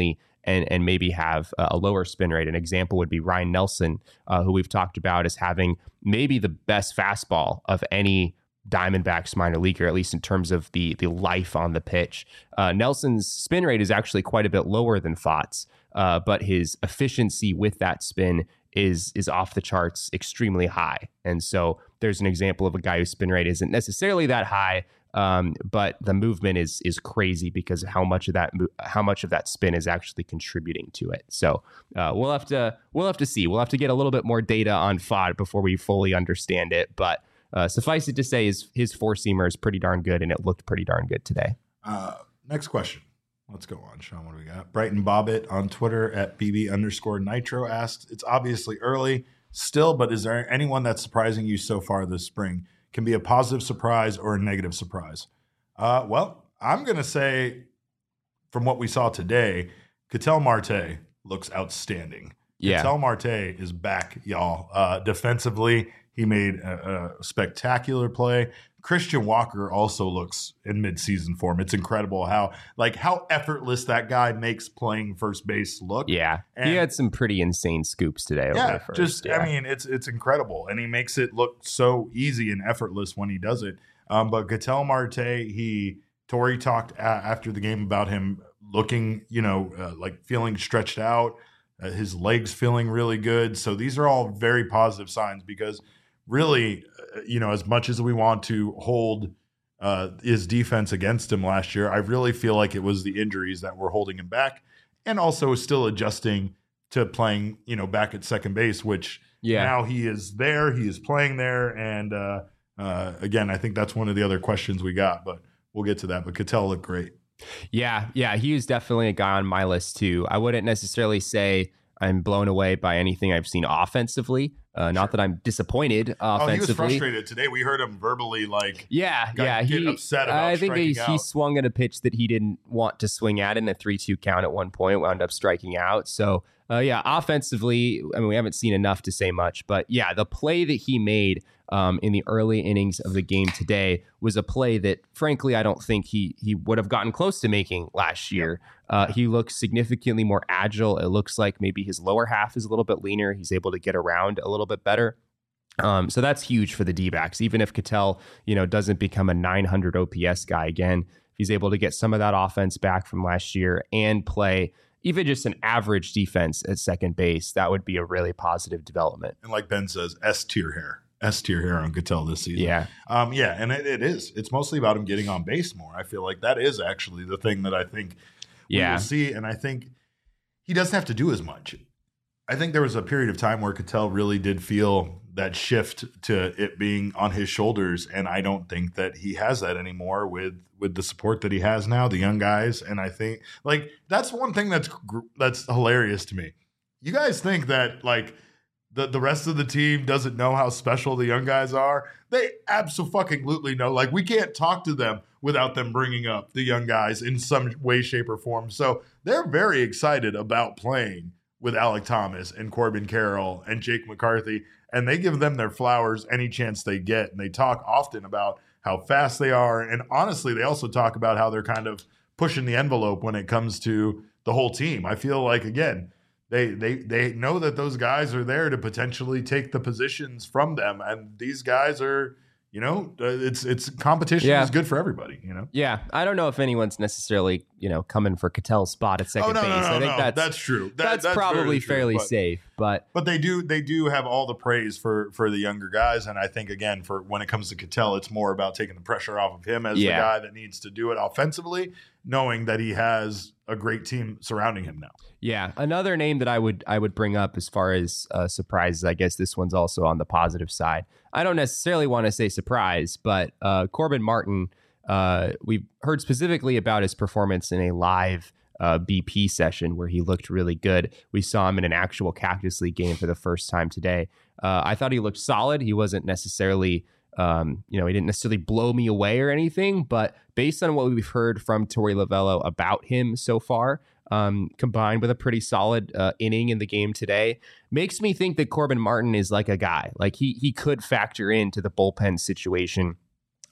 and and maybe have a lower spin rate. An example would be Ryan Nelson, uh, who we've talked about as having maybe the best fastball of any Diamondbacks minor leaguer, at least in terms of the the life on the pitch. Uh, Nelson's spin rate is actually quite a bit lower than Fott's, uh, but his efficiency with that spin is is off the charts, extremely high. And so there's an example of a guy whose spin rate isn't necessarily that high, um, but the movement is is crazy because of how much of that how much of that spin is actually contributing to it. So uh, we'll have to we'll have to see. We'll have to get a little bit more data on Fott before we fully understand it, but. Uh, suffice it to say, his, his four-seamer is pretty darn good, and it looked pretty darn good today. Uh, next question. Let's go on, Sean. What do we got? Brighton Bobbitt on Twitter at B B underscore Nitro asks, it's obviously early still, but is there anyone that's surprising you so far this spring? Can be a positive surprise or a negative surprise. Uh, well, I'm going to say from what we saw today, Ketel Marte looks outstanding. Yeah. Ketel Marte is back, y'all. Uh, defensively, he made a, a spectacular play. Christian Walker also looks in midseason form. It's incredible how like how effortless that guy makes playing first base look. Yeah, and he had some pretty insane scoops today. Yeah, over first. just yeah. I mean, it's it's incredible, and he makes it look so easy and effortless when he does it. Um, but Ketel Marte, he Torey talked a- after the game about him looking, you know, uh, like feeling stretched out, uh, his legs feeling really good. So these are all very positive signs because. Really, uh, you know, as much as we want to hold uh, his defense against him last year, I really feel like it was the injuries that were holding him back and also still adjusting to playing, you know, back at second base, which yeah. now he is there. He is playing there. And uh, uh, again, I think that's one of the other questions we got, but we'll get to that. But Ketel looked great. Yeah, yeah, he was definitely a guy on my list, too. I wouldn't necessarily say I'm blown away by anything I've seen offensively. Uh, not that I'm disappointed offensively. Oh, he was frustrated today. We heard him verbally like, yeah, got, yeah, get he upset about I think he, striking he out. swung at a pitch that he didn't want to swing at in a three two count at one point. Wound up striking out. So, uh, yeah, offensively, I mean, we haven't seen enough to say much, but yeah, the play that he made um, in the early innings of the game today was a play that, frankly, I don't think he he would have gotten close to making last year. Uh, he looks significantly more agile. It looks like maybe his lower half is a little bit leaner. He's able to get around a little bit better. Um, so that's huge for the D-backs. Even if Ketel, you know, doesn't become a nine hundred O P S guy again, if he's able to get some of that offense back from last year and play even just an average defense at second base, that would be a really positive development. And like Ben says, S tier hair. S tier hair on Ketel this season. Yeah. Um, yeah, and it, it is. It's mostly about him getting on base more. I feel like that is actually the thing that I think we Yeah. will see. And I think he doesn't have to do as much. I think there was a period of time where Ketel really did feel that shift to it being on his shoulders. And I don't think that he has that anymore with, with the support that he has now, the young guys. And I think like, that's one thing that's, gr- that's hilarious to me. You guys think that like the, the rest of the team doesn't know how special the young guys are? They abso-fucking-lutely know. Like we can't talk to them without them bringing up the young guys in some way, shape or form. So they're very excited about playing with Alec Thomas and Corbin Carroll and Jake McCarthy, and they give them their flowers any chance they get. And they talk often about how fast they are. And honestly, they also talk about how they're kind of pushing the envelope when it comes to the whole team. I feel like, again, they they they know that those guys are there to potentially take the positions from them. And these guys are, you know, uh, it's it's competition Yeah. is good for everybody, you know? Yeah, I don't know if anyone's necessarily, you know, coming for Ketel's spot at second oh, no, base. no, no, I think no. that's that's true. That- that's, that's probably very true, fairly but- safe, but But they do they do have all the praise for for the younger guys, and I think again for when it comes to Ketel, it's more about taking the pressure off of him as Yeah. the guy that needs to do it offensively, knowing that he has a great team surrounding him now. yeah, another name that I would I would bring up as far as uh, surprises, I guess this one's also on the positive side. I don't necessarily want to say surprise, but uh, Corbin Martin, uh, we've heard specifically about his performance in a live uh, B P session where he looked really good. We saw him in an actual Cactus League game for the first time today. Uh, I thought he looked solid. He wasn't necessarily, um, you know, he didn't necessarily blow me away or anything, but based on what we've heard from Torey Lovello about him so far, um, combined with a pretty solid uh, inning in the game today, makes me think that Corbin Martin is like a guy. Like he he could factor into the bullpen situation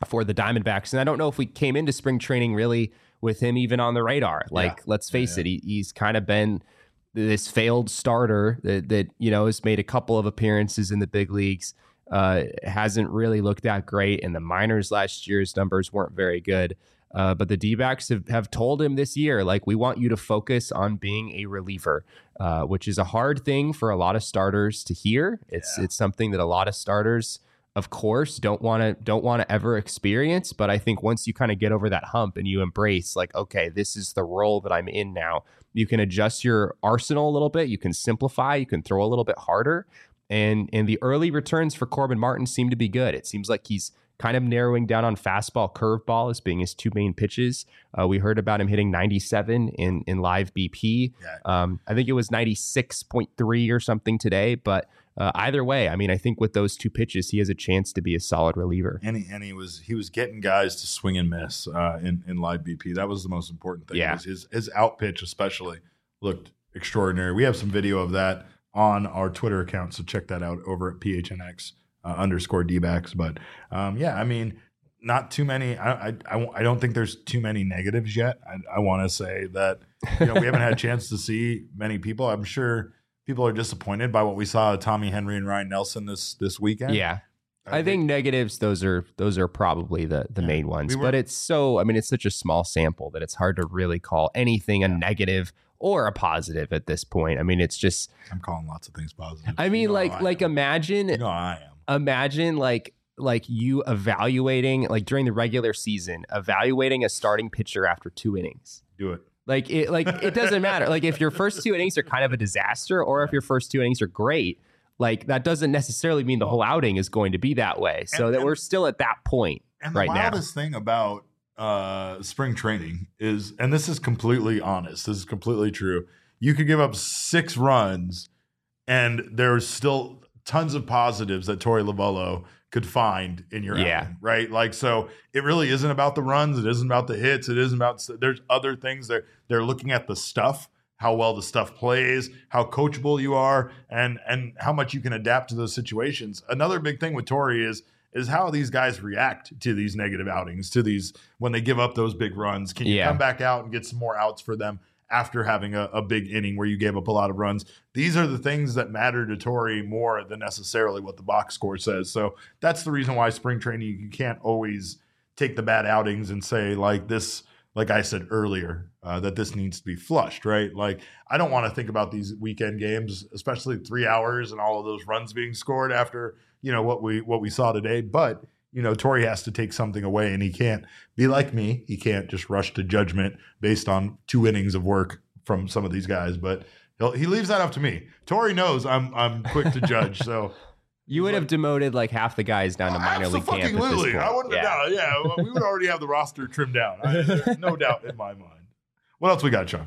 for the Diamondbacks. And I don't know if we came into spring training really with him even on the radar. Like, yeah. let's face yeah, yeah. it, he, he's kind of been this failed starter that, that, you know, has made a couple of appearances in the big leagues, uh, hasn't really looked that great. In the minors last year's numbers weren't very good. Uh, but the D-backs have, have told him this year, like, we want you to focus on being a reliever, uh, which is a hard thing for a lot of starters to hear. It's yeah. it's something that a lot of starters, of course, don't want to don't want to ever experience. But I think once you kind of get over that hump and you embrace, like, okay, this is the role that I'm in now, you can adjust your arsenal a little bit. You can simplify. You can throw a little bit harder. And and the early returns for Corbin Martin seem to be good. It seems like he's kind of narrowing down on fastball, curveball as being his two main pitches. Uh, we heard about him hitting ninety-seven in, in live B P. Yeah. Um, I think it was ninety-six point three or something today. But uh, either way, I mean, I think with those two pitches, he has a chance to be a solid reliever. And he, and he was he was getting guys to swing and miss uh, in, in live B P. That was the most important thing. Yeah. Was his, his out pitch especially looked extraordinary. We have some video of that on our Twitter account, so check that out over at P H N X. Uh, underscore D-backs. But um, yeah, I mean, not too many. I, I, I, I don't think there's too many negatives yet. I, I want to say that, you know, we haven't had a chance to see many people. I'm sure people are disappointed by what we saw of Tommy Henry and Ryan Nelson this this weekend. Yeah. I, I think, think negatives, those are those are probably the, the yeah, main ones. We were, but it's so, I mean, it's such a small sample that it's hard to really call anything yeah. a negative or a positive at this point. I mean, it's just. I'm calling lots of things positive. I mean, you know like like am. imagine. You know I am. Imagine like like you evaluating, like during the regular season, evaluating a starting pitcher after two innings. Do it. Like it like it doesn't matter. Like if your first two innings are kind of a disaster, or if your first two innings are great, like that doesn't necessarily mean the whole outing is going to be that way. So and, that and, we're still at that point and right now. The wildest thing about uh, spring training is, and this is completely honest, this is completely true. You could give up six runs, and there's still tons of positives that Torey Lovullo could find in your yeah. outing, right? Like, so it really isn't about the runs. It isn't about the hits. It isn't about, there's other things. They're, they're looking at the stuff, how well the stuff plays, how coachable you are, and and how much you can adapt to those situations. Another big thing with Torey is, is how these guys react to these negative outings, to these, when they give up those big runs. Can you yeah. come back out and get some more outs for them after having a, a big inning where you gave up a lot of runs? These are the things that matter to Torey more than necessarily what the box score says. So that's the reason why spring training, you can't always take the bad outings and say, like this, like I said earlier, uh, that this needs to be flushed, right? Like, I don't want to think about these weekend games, especially three hours and all of those runs being scored after, you know, what we what we saw today. But you know, Torey has to take something away, and he can't be like me. He can't just rush to judgment based on two innings of work from some of these guys. But he'll, he leaves that up to me. Torey knows I'm I'm quick to judge. So you would like, have demoted like half the guys down to minor league camp at this point. I wouldn't yeah. have. Yeah, well, we would already have the roster trimmed down. I, there's no doubt in my mind. What else we got, Sean?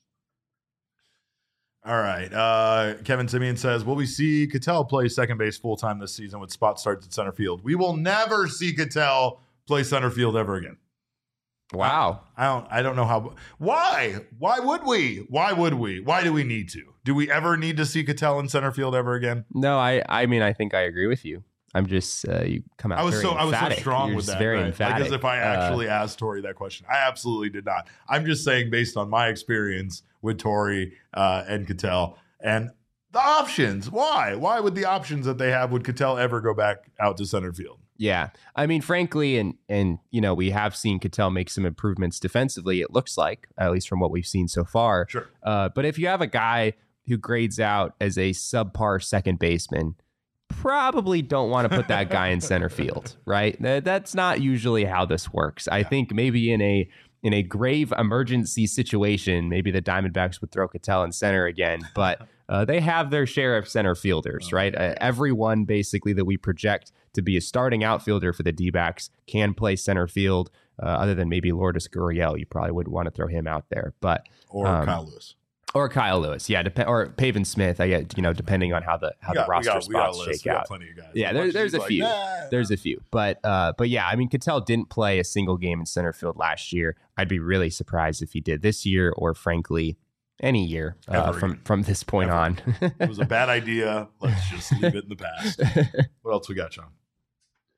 All right. Uh, Kevin Simeon says, will we see Ketel play second base full-time this season with spot starts at center field? We will never see Ketel play center field ever again. Wow. I, I don't I don't know how. Why? Why would we? Why would we? Why do we need to? Do we ever need to see Ketel in center field ever again? No, I, I mean, I think I agree with you. I'm just, uh, you come out I was very so emphatic. I was so strong You're with that. Very right? emphatic. Like as if I actually uh, asked Torey that question. I absolutely did not. I'm just saying based on my experience with Torey uh, and Ketel and the options. Why? Why would the options that they have, would Ketel ever go back out to center field? Yeah. I mean, frankly, and, and you know, we have seen Ketel make some improvements defensively, it looks like, at least from what we've seen so far. Sure. Uh, but if you have a guy who grades out as a subpar second baseman, probably don't want to put that guy in center field, right? That's not usually how this works. I yeah. think maybe in a in a grave emergency situation, maybe the Diamondbacks would throw Ketel in center again, but uh, they have their share of center fielders, oh, right? Uh, everyone basically that we project to be a starting outfielder for the D-backs can play center field, uh, other than maybe Lourdes Gurriel. You probably wouldn't want to throw him out there, but or um, Kyle Lewis. Or Kyle Lewis, yeah, dep- or Pavin Smith. I get, you know, depending on how the how got, the roster got, spots shake out. Plenty of guys. Yeah, there, there's a like, few. Nah, there's nah. a few, but uh, but yeah, I mean, Ketel didn't play a single game in center field last year. I'd be really surprised if he did this year, or frankly, any year uh, from from this point Ever. on. It was a bad idea. Let's just leave it in the past. What else we got, Sean?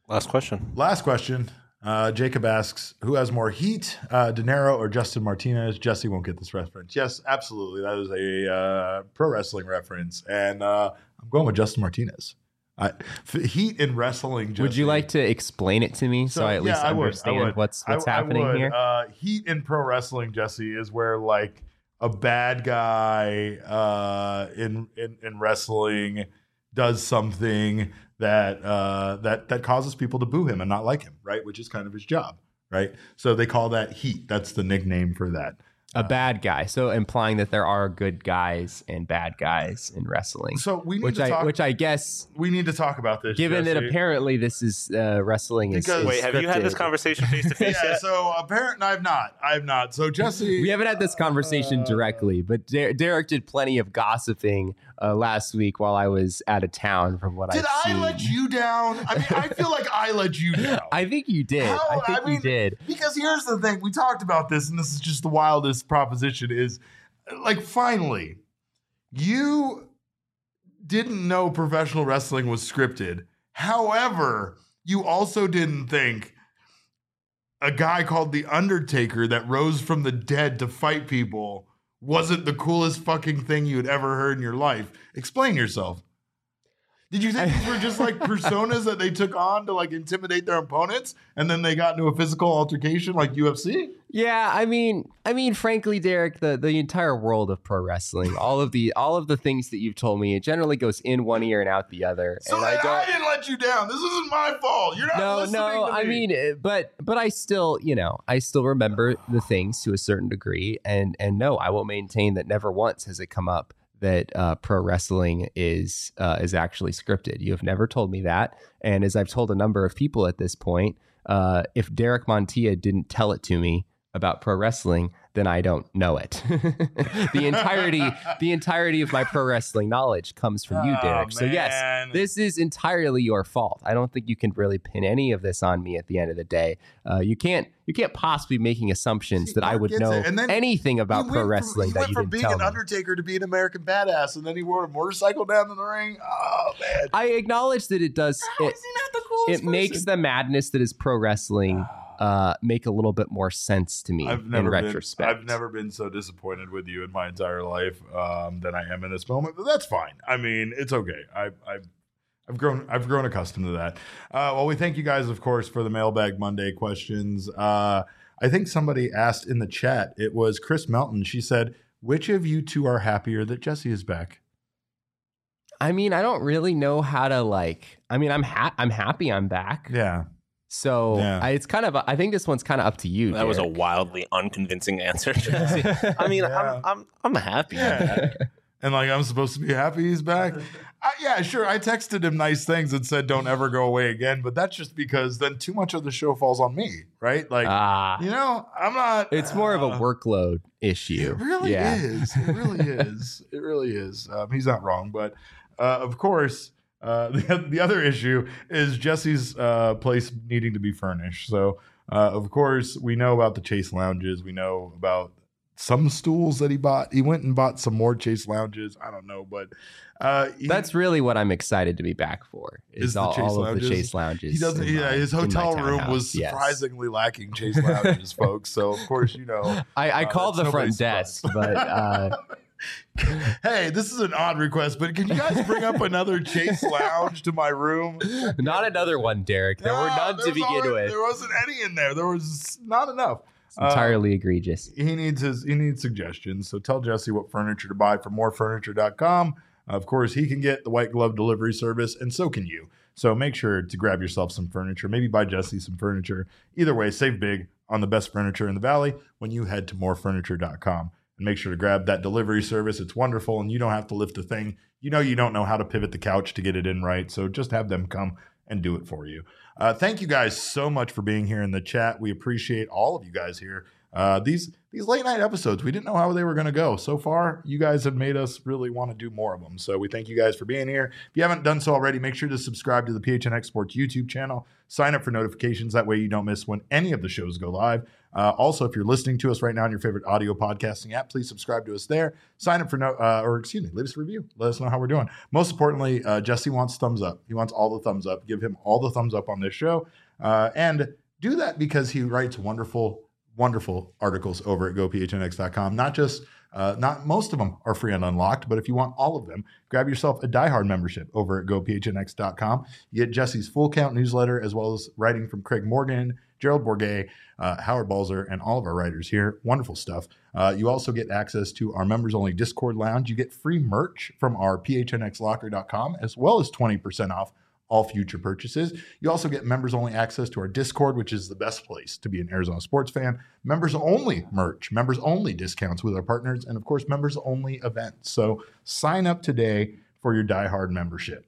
Last question. Last question. Uh, Jacob asks, who has more heat, uh, De Niro or Justin Martinez? Jesse won't get this reference. Yes, absolutely. That is a uh, pro wrestling reference. And uh, I'm going with Justin Martinez. I, f- heat in wrestling. Jesse. Would you like to explain it to me so, so I at yeah, least I would, understand I would. what's what's I, happening I would. here? Uh, heat in pro wrestling, Jesse, is where like a bad guy uh, in, in in wrestling does something that uh, that that causes people to boo him and not like him, right? Which is kind of his job, right? So they call that heat. That's the nickname for that. A bad guy, so implying that there are good guys and bad guys in wrestling. So we need which to I talk, which I guess we need to talk about this. Given Jesse. that apparently this is uh, wrestling is, Because- is Wait, have you had this scripted. conversation face to face yeah, yet? so apparently I've not. I've not. So Jesse, We haven't had this conversation Uh, directly, but Der- Derek did plenty of gossiping uh, last week while I was out of town. From what did I've I seen. let you down? I mean, I feel like I let you down. I think you did. How- I think I mean, you did. Because here's the thing. We talked about this, and this is just the wildest proposition is, like, finally, you didn't know professional wrestling was scripted. However, you also didn't think a guy called The Undertaker that rose from the dead to fight people wasn't the coolest fucking thing you had ever heard in your life. Explain yourself. Did you think these were just like personas that they took on to like intimidate their opponents and then they got into a physical altercation like U F C? Yeah, I mean, I mean, frankly, Derek, the, the entire world of pro wrestling, all of the all of the things that you've told me, it generally goes in one ear and out the other. So and I, I don't. didn't let you down. This isn't my fault. You're not No, listening no, to I me. mean, uh, but but I still, you know, I still remember the things to a certain degree, and and no, I will maintain that never once has it come up that uh, pro wrestling is uh, is actually scripted. You have never told me that, and as I've told a number of people at this point, uh, if Derek Montilla didn't tell it to me about pro wrestling, then I don't know it. the entirety, the entirety of my pro wrestling knowledge comes from you, Oh, Derek. So yes, man. this is entirely your fault. I don't think you can really pin any of this on me at the end of the day. Uh, you can't, you can't possibly be making assumptions See, that I Mark would gets know it. And then anything about He pro went wrestling from, he that you went from didn't being tell an me. Undertaker to being an American badass, and then he rode a motorcycle down in the ring. Oh man, I acknowledge that it does. How It, is he not the coolest it makes person? the madness that is pro wrestling uh, make a little bit more sense to me I've in never been, retrospect. I've never been so disappointed with you in my entire life um, than I am in this moment. But that's fine. I mean, it's okay. I, I've I've grown I've grown accustomed to that. Uh, well, we thank you guys, of course, for the Mailbag Monday questions. Uh, I think somebody asked in the chat. It was Chris Melton. She said, "Which of you two are happier that Jesse is back?" I mean, I don't really know how to like. I mean, I'm ha- I'm happy I'm back. Yeah. So Yeah. I, it's kind of. I think this one's kind of up to you. That was a Derek. wildly unconvincing answer. Jesse. I mean, Yeah. I'm I'm I'm happy. Yeah. And like I'm supposed to be happy he's back. I, yeah, sure. I texted him nice things and said, "Don't ever go away again." But that's just because then too much of the show falls on me, right? Like, Ah, you know, I'm not. it's more of a uh, workload issue. It really yeah. is. It really is. It really is. Um, he's not wrong, but uh, of course, uh, the the other issue is Jesse's uh, place needing to be furnished. So, uh, of course, we know about the Chase lounges. We know about some stools that he bought. He went and bought some more Chase lounges. I don't know, but uh, he, That's really what I'm excited to be back for. Is, Is the all, Chase all of lounges? the Chase lounges. he doesn't. in Yeah, my- his in my hotel room townhouse, was yes. surprisingly lacking Chase lounges, folks. So of course, you know. I, I Uh, called the that's front nobody's desk, surprise. but uh, Hey, this is an odd request, but can you guys bring up another Chase lounge to my room? not another one, Derek. There were No, none to there's begin already- with. There wasn't any in there. There was not enough. It's entirely egregious. He needs his he needs suggestions. So tell Jesse what furniture to buy from more furniture dot com. Of course, he can get the white glove delivery service, and so can you. So make sure to grab yourself some furniture. Maybe buy Jesse some furniture. Either way, save big on the best furniture in the valley when you head to more furniture dot com. And make sure to grab that delivery service. It's wonderful, and you don't have to lift a thing. You know you don't know how to pivot the couch to get it in right, so just have them come and do it for you. Uh, thank you guys so much for being here in the chat. We appreciate all of you guys here Uh, these these late night episodes, we didn't know how they were going to go. So far, you guys have made us really want to do more of them. So we thank you guys for being here. If you haven't done so already, make sure to subscribe to the P H N X Sports YouTube channel. Sign up for notifications. That way you don't miss when any of the shows go live. Uh, also, if you're listening to us right now on your favorite audio podcasting app, please subscribe to us there. Sign up for no, uh, or excuse me, leave us a review. Let us know how we're doing. Most importantly, uh, Jesse wants thumbs up. He wants all the thumbs up. Give him all the thumbs up on this show. Uh, and do that because he writes wonderful, wonderful articles over at go p h n x dot com. Not just, uh, not most of them are free and unlocked, but if you want all of them, grab yourself a diehard membership over at go p h n x dot com. You get Jesse's full count newsletter, as well as writing from Craig Morgan, Gerald Bourget, uh, Howard Balzer, and all of our writers here. Wonderful stuff. Uh, you also get access to our members-only Discord lounge. You get free merch from our p h n x locker dot com, as well as twenty percent off all future purchases. You also get members-only access to our Discord, which is the best place to be an Arizona sports fan. Members-only merch, members-only discounts with our partners, and, of course, members-only events. So sign up today for your diehard membership.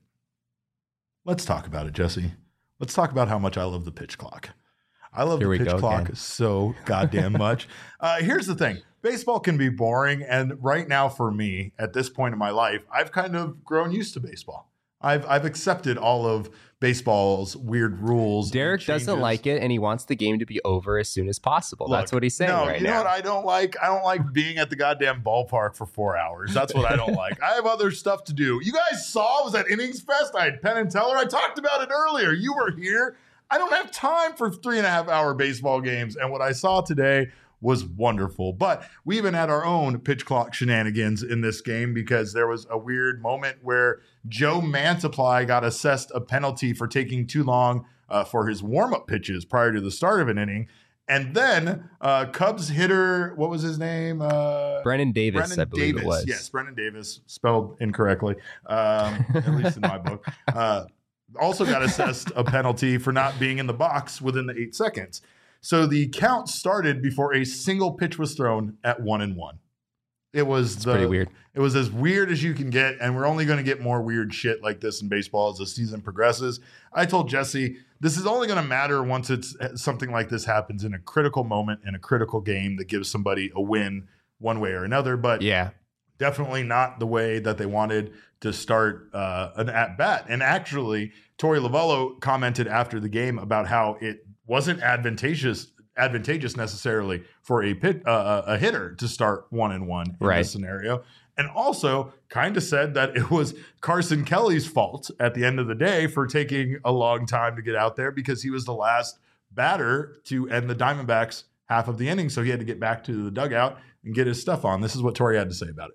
Let's talk about it, Jesse. Let's talk about how much I love the pitch clock. I love Here the pitch clock again. so goddamn much. Uh, here's the thing. Baseball can be boring, and right now for me, at this point in my life, I've kind of grown used to baseball. I've I've accepted all of baseball's weird rules. Derek doesn't like it, and he wants the game to be over as soon as possible. Look, That's what he's saying no, right you know now. what I don't like? I don't like being at the goddamn ballpark for four hours. That's what I don't like. I have other stuff to do. You guys saw, I was at Innings Fest. I had Penn and Teller. I talked about it earlier. You were here. I don't have time for three and a half hour baseball games. And what I saw today was wonderful. But we even had our own pitch clock shenanigans in this game because there was a weird moment where Joe Mantiply got assessed a penalty for taking too long uh, for his warm-up pitches prior to the start of an inning. And then uh, Cubs hitter, what was his name? Uh, Brennan Davis, Brennan I believe Davis. it was. Yes, Brennan Davis, spelled incorrectly, um, at least in my book. Uh, also got assessed a penalty for not being in the box within the eight seconds. So the count started before a single pitch was thrown at one and one. It was It's the, pretty weird. It was as weird as you can get, and we're only going to get more weird shit like this in baseball as the season progresses. I told Jesse, this is only going to matter once it's something like this happens in a critical moment in a critical game that gives somebody a win one way or another. But Yeah. definitely not the way that they wanted to start uh, an at-bat. And actually, Torey Lovullo commented after the game about how it wasn't advantageous advantageous necessarily for a pit uh, a hitter to start one and one in Right. this scenario, and also kind of said that it was Carson Kelly's fault at the end of the day for taking a long time to get out there because he was the last batter to end the Diamondbacks half of the inning, so he had to get back to the dugout and get his stuff on. This is what Torey had to say about it.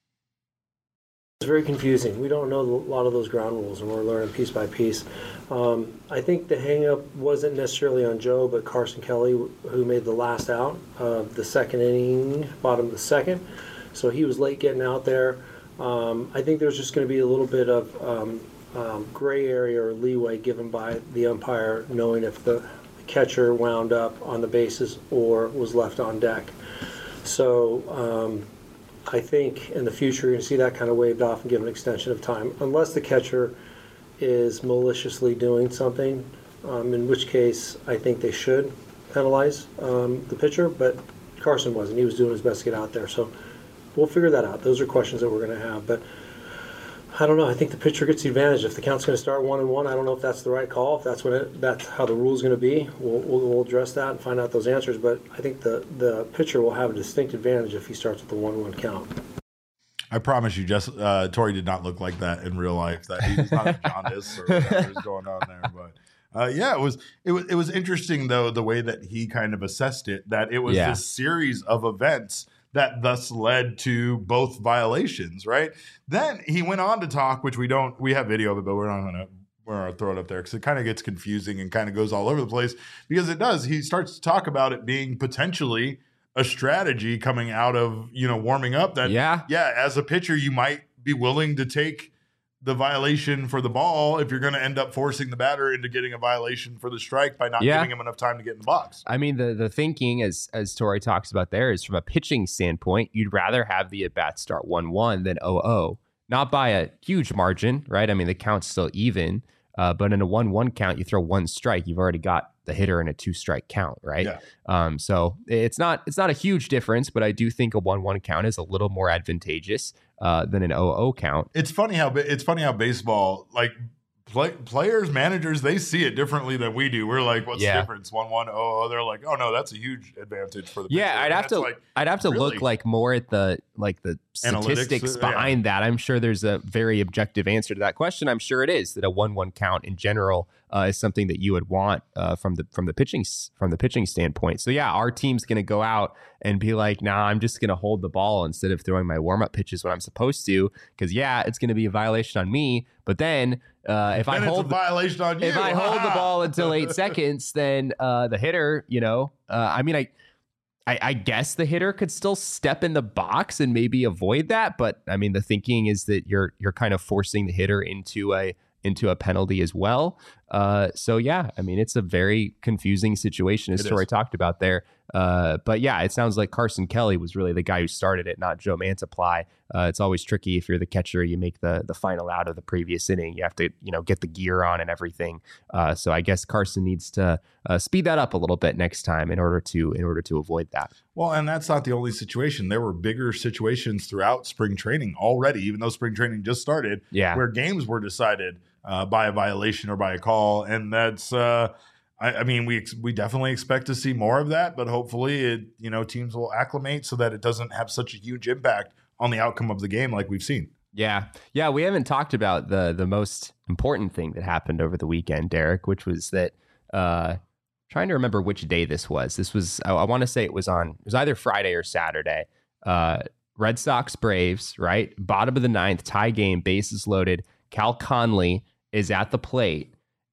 It's very confusing. We don't know a lot of those ground rules, and we're learning piece by piece. Um, I think the hang-up wasn't necessarily on Joe, but Carson Kelly, who made the last out of the second inning, bottom of the second. So he was late getting out there. Um, I think there's just going to be a little bit of um, um, gray area or leeway given by the umpire, knowing if the catcher wound up on the bases or was left on deck. So um, I think in the future you're going to see that kind of waved off and give an extension of time, unless the catcher is maliciously doing something, um, in which case I think they should penalize um, the pitcher, but Carson wasn't. He was doing his best to get out there. So we'll figure that out. Those are questions that we're going to have. But I don't know. I think the pitcher gets the advantage. If the count's going to start one and one, I don't know if that's the right call. If that's what it, that's how the rule is going to be, we'll, we'll, we'll address that and find out those answers. But I think the, the pitcher will have a distinct advantage if he starts with the one one count. I promise you, just uh, Torey did not look like that in real life. That he's not a jaundice or whatever's going on there. But uh, yeah, it was it was it was interesting though the way that he kind of assessed it. That it was Yeah. this series of events that thus led to both violations. Right. Then he went on to talk, which we don't we have video of it, but we're not going to. We're going to throw it up there because it kind of gets confusing and kind of goes all over the place because it does. He starts to talk about it being potentially a strategy coming out of, you know, warming up that, Yeah. yeah, as a pitcher, you might be willing to take the violation for the ball if you're going to end up forcing the batter into getting a violation for the strike by not Yeah. giving him enough time to get in the box. I mean, the the thinking, as as Torey talks about there, is from a pitching standpoint, you'd rather have the at-bat start one one than oh oh. Not by a huge margin, right? I mean, the count's still even. Uh, but in a one one count, you throw one strike, you've already got the hitter in a two strike count, right? Yeah. Um, so it's not it's not a huge difference, but I do think a one one count is a little more advantageous uh, than an oh oh count. It's funny how it's funny how baseball, like play, players, managers, they see it differently than we do. We're like, what's Yeah. the difference? One one oh oh. They're like, oh no, that's a huge advantage for the pitcher. Yeah, I'd And have that's to like, I'd have to really? look like more at the like the statistics Analytics, uh, yeah. behind that. I'm sure there's a very objective answer to that question. I'm sure it is that a one one count in general uh, is something that you would want uh, from the from the pitching s- from the pitching standpoint. So yeah, our team's going to go out and be like, nah, I'm just going to hold the ball instead of throwing my warm up pitches when I'm supposed to, because yeah, it's going to be a violation on me. But then uh, if Then I it's hold a violation on you. if I hold the ball until eight seconds, then uh, the hitter, you know, uh, I mean, I, I, I guess the hitter could still step in the box and maybe avoid that, but I mean, the thinking is that you're you're kind of forcing the hitter into a into a penalty as well. Uh, so yeah, I mean, it's a very confusing situation, as It Troy is. talked about there. Uh, but yeah, it sounds like Carson Kelly was really the guy who started it, not Joe Mantiply. Uh, it's always tricky if you're the catcher, you make the the final out of the previous inning. You have to, you know, get the gear on and everything. Uh, so I guess Carson needs to uh, speed that up a little bit next time in order to in order to avoid that. Well, and that's not the only situation. There were bigger situations throughout spring training already, even though spring training just started, Yeah. where games were decided uh, by a violation or by a call. And that's, uh, I, I mean, we ex- we definitely expect to see more of that, but hopefully, it, you know, teams will acclimate so that it doesn't have such a huge impact on the outcome of the game like we've seen. Yeah. Yeah. We haven't talked about the the most important thing that happened over the weekend, Derek, which was that uh trying to remember which day this was. This was I, I want to say it was on it was either Friday or Saturday. Uh Red Sox Braves, right? Bottom of the ninth, tie game, bases loaded. Cal Conley is at the plate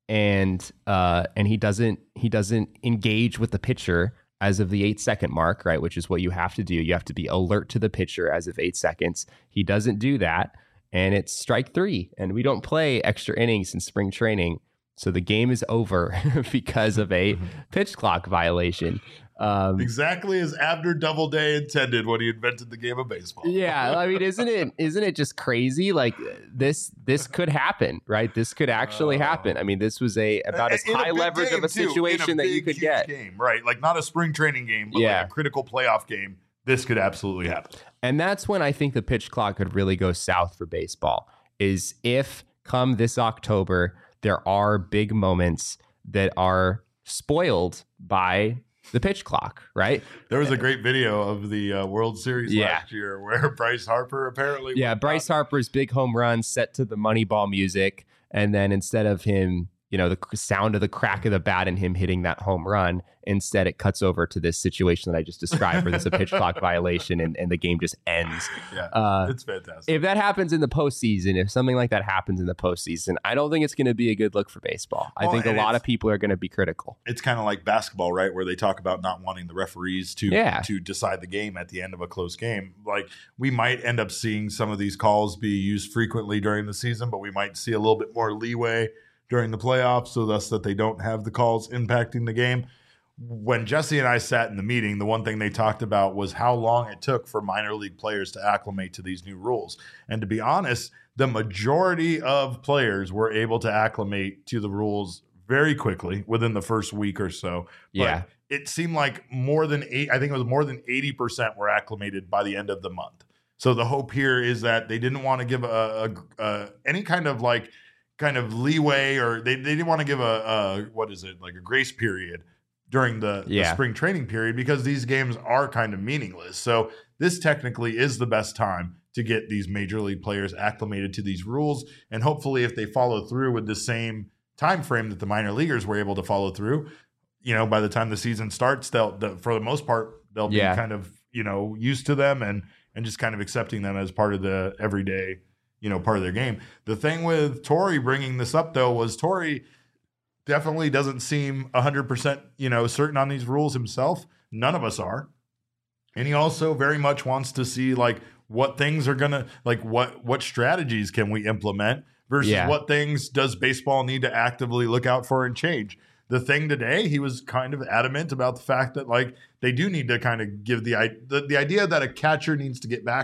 and uh and he doesn't he doesn't engage with the pitcher as of the eight second mark, right? Which is what you have to do. You have to be alert to the pitcher as of eight seconds. He doesn't do that. And it's strike three. And we don't play extra innings in spring training. So the game is over because of a pitch clock violation. Um, Exactly as Abner Doubleday intended when he invented the game of baseball. yeah, I mean, isn't it isn't it just crazy? Like this this could happen, right? This could actually happen. I mean, this was a about as In a high big leverage game, of a too. In situation that you big, could huge get. Game, right? Like not a spring training game, but Yeah. like a critical playoff game. This could absolutely happen. And that's when I think the pitch clock could really go south for baseball, is if come this October, there are big moments that are spoiled by the pitch clock, right? There was a great video of the uh, World Series Yeah. last year where Bryce Harper apparently. Yeah, went Bryce out- Harper's big home run set to the Moneyball music. And then instead of him, you know, the sound of the crack of the bat and him hitting that home run, instead it cuts over to this situation that I just described where there's a pitch clock violation and, and the game just ends. Yeah, Uh, it's fantastic. If that happens in the postseason, if something like that happens in the postseason, I don't think it's going to be a good look for baseball. I Well, think a and lot it's- of people are going to be critical. it's kind of like basketball, right? Where they talk about not wanting the referees to Yeah. to decide the game at the end of a close game. Like we might end up seeing some of these calls be used frequently during the season, but we might see a little bit more leeway during the playoffs, so thus that they don't have the calls impacting the game. When Jesse and I sat in the meeting, the one thing they talked about was how long it took for minor league players to acclimate to these new rules. And to be honest, the majority of players were able to acclimate to the rules very quickly within the first week or so. But Yeah. it seemed like more than eight, I think it was more than eighty percent were acclimated by the end of the month. So the hope here is that they didn't want to give a, a, a any kind of like kind of leeway, or they, they didn't want to give a, a what is it like a grace period during the, Yeah. the spring training period, because these games are kind of meaningless. So this technically is the best time to get these major league players acclimated to these rules, and hopefully if they follow through with the same time frame that the minor leaguers were able to follow through, you know, by the time the season starts, they'll, the, for the most part, they'll Yeah. be kind of, you know, used to them and and just kind of accepting them as part of the everyday, you know, part of their game. The thing with Torrey bringing this up, though, was Torrey definitely doesn't seem one hundred percent, you know, certain on these rules himself. None of us are. And he also very much wants to see, like, what things are going to, like, what what strategies can we implement versus Yeah. what things does baseball need to actively look out for and change. The thing today, he was kind of adamant about the fact that, like, they do need to kind of give the, the the idea that a catcher needs to get back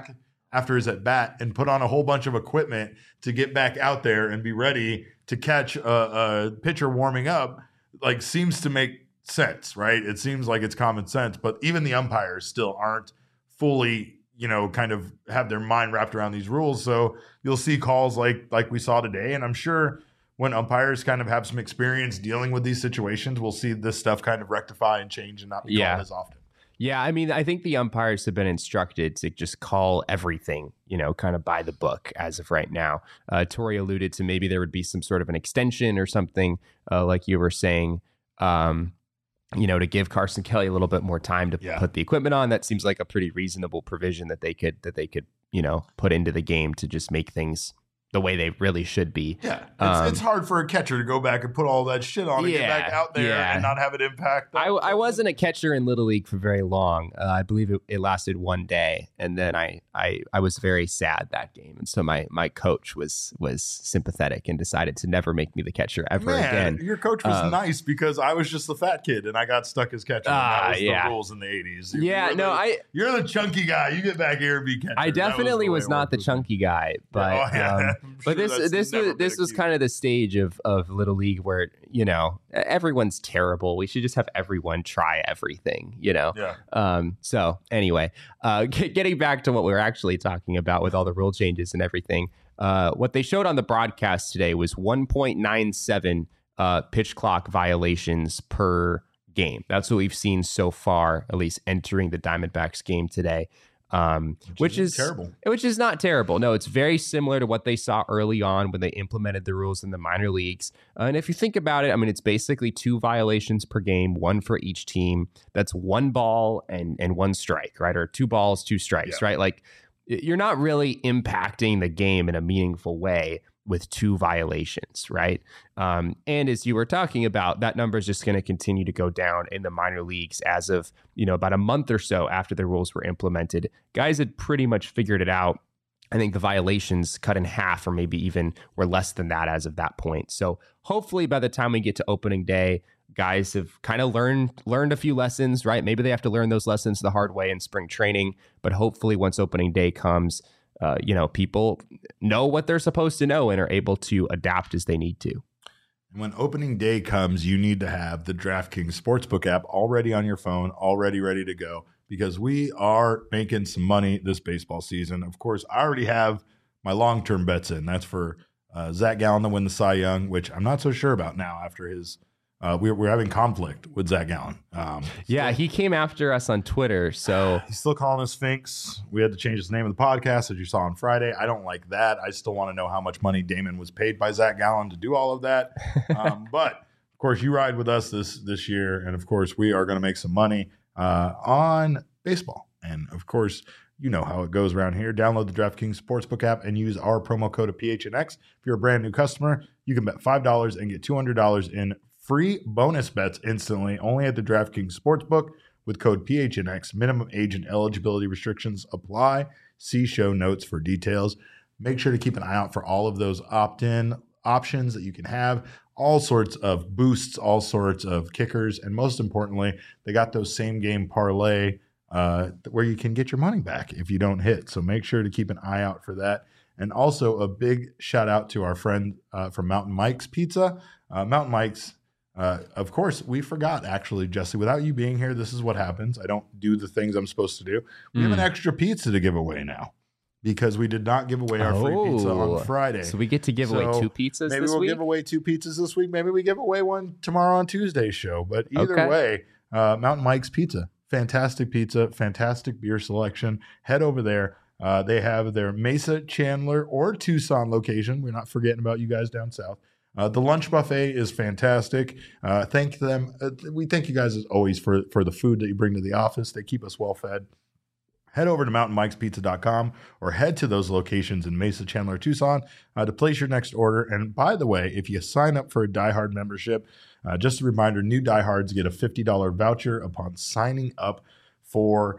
after his at bat and put on a whole bunch of equipment to get back out there and be ready to catch a, a pitcher warming up, like seems to make sense, right? It seems like it's common sense, but even the umpires still aren't fully, you know, kind of have their mind wrapped around these rules. So you'll see calls like like we saw today, and I'm sure when umpires kind of have some experience dealing with these situations, we'll see this stuff kind of rectify and change and not be Yeah. called as often. Yeah, I mean, I think the umpires have been instructed to just call everything, you know, kind of by the book as of right now. Uh, Tori alluded to maybe there would be some sort of an extension or something, uh, like you were saying, um, you know, to give Carson Kelly a little bit more time to Yeah. put the equipment on. That seems like a pretty reasonable provision that they could that they could, you know, put into the game to just make things the way they really should be. Yeah, it's, Um, it's hard for a catcher to go back and put all that shit on and get back Yeah, out there yeah. and not have it impact. I, I wasn't a catcher in Little League for very long. Uh, I believe it, it lasted one day, and then I, I I was very sad that game, and so my my coach was was sympathetic and decided to never make me the catcher ever Man, again. your coach was Um, nice because I was just the fat kid and I got stuck as catcher. and Ah, that was yeah. the rules in the eighties. Yeah, You're no, the- I You're the chunky guy. You get back here and be catcher. I That was definitely the way was it not worked the with me. chunky guy, but Oh, yeah. um, I'm but sure this that's this never was been this was accused. kind of the stage of of Little League where, you know, everyone's terrible. We should just have everyone try everything, you know. Yeah. Um, so anyway, uh, get, getting back to what we were actually talking about with all the rule changes and everything, uh, what they showed on the broadcast today was one point nine seven uh, pitch clock violations per game. That's what we've seen so far, at least entering the Diamondbacks game today. Um, which, isn't is terrible. Which is not terrible. No, it's very similar to what they saw early on when they implemented the rules in the minor leagues. Uh, and if you think about it, I mean, it's basically two violations per game, one for each team. That's one ball and and one strike, right? Or two balls, two strikes, Yeah. right? Like y- you're not really impacting the game in a meaningful way with two violations, right? Um, and as you were talking about, that number is just going to continue to go down in the minor leagues as of, you know, about a month or so after the rules were implemented. Guys had pretty much figured it out. I think the violations cut in half or maybe even were less than that as of that point. So hopefully by the time we get to opening day, guys have kind of learned learned a few lessons, right? Maybe they have to learn those lessons the hard way in spring training, but hopefully once opening day comes, uh, you know, people know what they're supposed to know and are able to adapt as they need to. When opening day comes, you need to have the DraftKings Sportsbook app already on your phone, already ready to go, because we are making some money this baseball season. Of course, I already have my long-term bets in. That's for uh, Zach Gallen to win the Cy Young, which I'm not so sure about now after his uh, – we're, we're having conflict with Zach Gallen. Um, Yeah, he came after us on Twitter, so He's still calling us Sphinx. We had to change the name of the podcast, as you saw on Friday. I don't like that. I still want to know how much money Damon was paid by Zach Gallen to do all of that. Um, but, of course, you ride with us this this year, and, of course, we are going to make some money uh, on baseball. And, of course, you know how it goes around here. Download the DraftKings Sportsbook app and use our promo code of P H N X. If you're a brand new customer, you can bet five dollars and get two hundred dollars in free bonus bets instantly only at the DraftKings Sportsbook with code P H N X. Minimum age and eligibility restrictions apply. See show notes for details. Make sure to keep an eye out for all of those opt-in options that you can have. All sorts of boosts, all sorts of kickers, and most importantly, they got those same game parlay uh, where you can get your money back if you don't hit. So make sure to keep an eye out for that. And also a big shout out to our friend uh, from Mountain Mike's Pizza. Uh, Mountain Mike's Uh, of course, we forgot, actually, Jesse. Without you being here, this is what happens. I don't do the things I'm supposed to do. We have an extra pizza to give away now because we did not give away our free pizza Oh, on Friday. so we get to give away So two pizzas Maybe this we'll week? give away two pizzas this week. Maybe we give away one tomorrow on Tuesday's show. But either Okay. way, uh, Mountain Mike's Pizza. Fantastic pizza, fantastic beer selection. Head over there. Uh, they have their Mesa, Chandler, or Tucson location. We're not forgetting about you guys down south. Uh, the lunch buffet is fantastic. Uh, thank them. Uh, we thank you guys as always for, for the food that you bring to the office. They keep us well fed. Head over to mountain mikes pizza dot com or head to those locations in Mesa, Chandler, Tucson uh, to place your next order. And by the way, if you sign up for a Die Hard membership, uh, just a reminder, new diehards get a fifty dollars voucher upon signing up for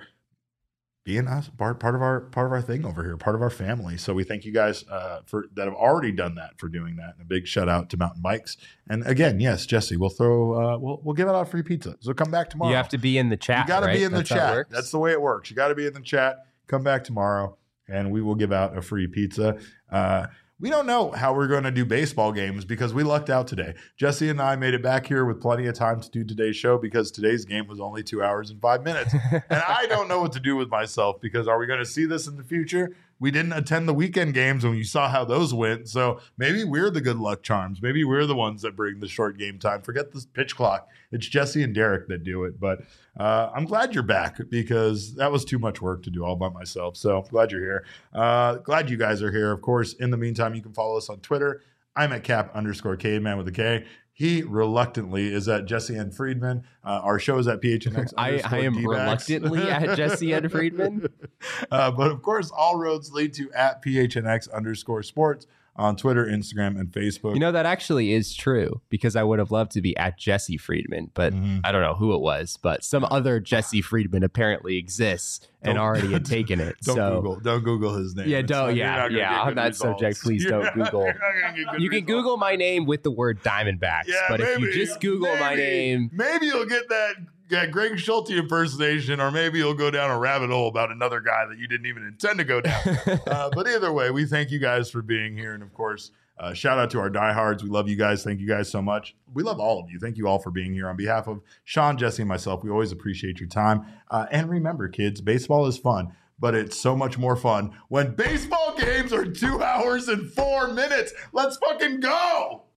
being us part, part of our part of our thing over here, part of our family. So we thank you guys uh, for that have already done that for doing that. And a big shout out to Mountain Bikes. And again, yes, Jesse, we'll throw uh, we'll we'll give out free pizza. So come back tomorrow. You have to be in the chat. You got to right? be in the That's how it chat. works? That's the way it works. You got to be in the chat. Come back tomorrow, and we will give out a free pizza. Uh, We don't know how we're going to do baseball games because we lucked out today. Jesse and I made it back here with plenty of time to do today's show because today's game was only two hours and five minutes. And I don't know what to do with myself because are we going to see this in the future? We didn't attend the weekend games and you saw how those went. So maybe we're the good luck charms. Maybe we're the ones that bring the short game time. Forget this pitch clock. It's Jesse and Derek that do it. But uh, I'm glad you're back because that was too much work to do all by myself. So glad you're here. Uh, glad you guys are here. Of course, in the meantime, you can follow us on Twitter. I'm at cap underscore caveman with a K. He reluctantly is at Jesse N. Friedman. Uh, our show is at P H N X. I, I am D-backs. reluctantly at Jesse N. Friedman. Uh, but of course, all roads lead to at P H N X underscore sports on Twitter, Instagram, and Facebook. You know, that actually is true because I would have loved to be at Jesse Friedman, but Mm-hmm. I don't know who it was, but some other Jesse Friedman apparently exists and Don't- already had taken it. Don't so Google. Don't Google his name. Yeah, It's don't- not- you're yeah, not gonna yeah, get on good that results. subject, please You're don't not- Google. you're not gonna get good you can results. Google my name with the word Diamondbacks, Yeah, but if you maybe, just Google my maybe, name, maybe you'll get that, that Greg Schulte impersonation, or maybe you'll go down a rabbit hole about another guy that you didn't even intend to go down. uh, but either way, we thank you guys for being here, and of course, uh, shout out to our diehards. We love you guys. Thank you guys so much. We love all of you. Thank you all for being here. On behalf of Sean, Jesse, and myself, we always appreciate your time. Uh, and remember, kids, baseball is fun. But it's so much more fun when baseball games are two hours and four minutes. Let's fucking go.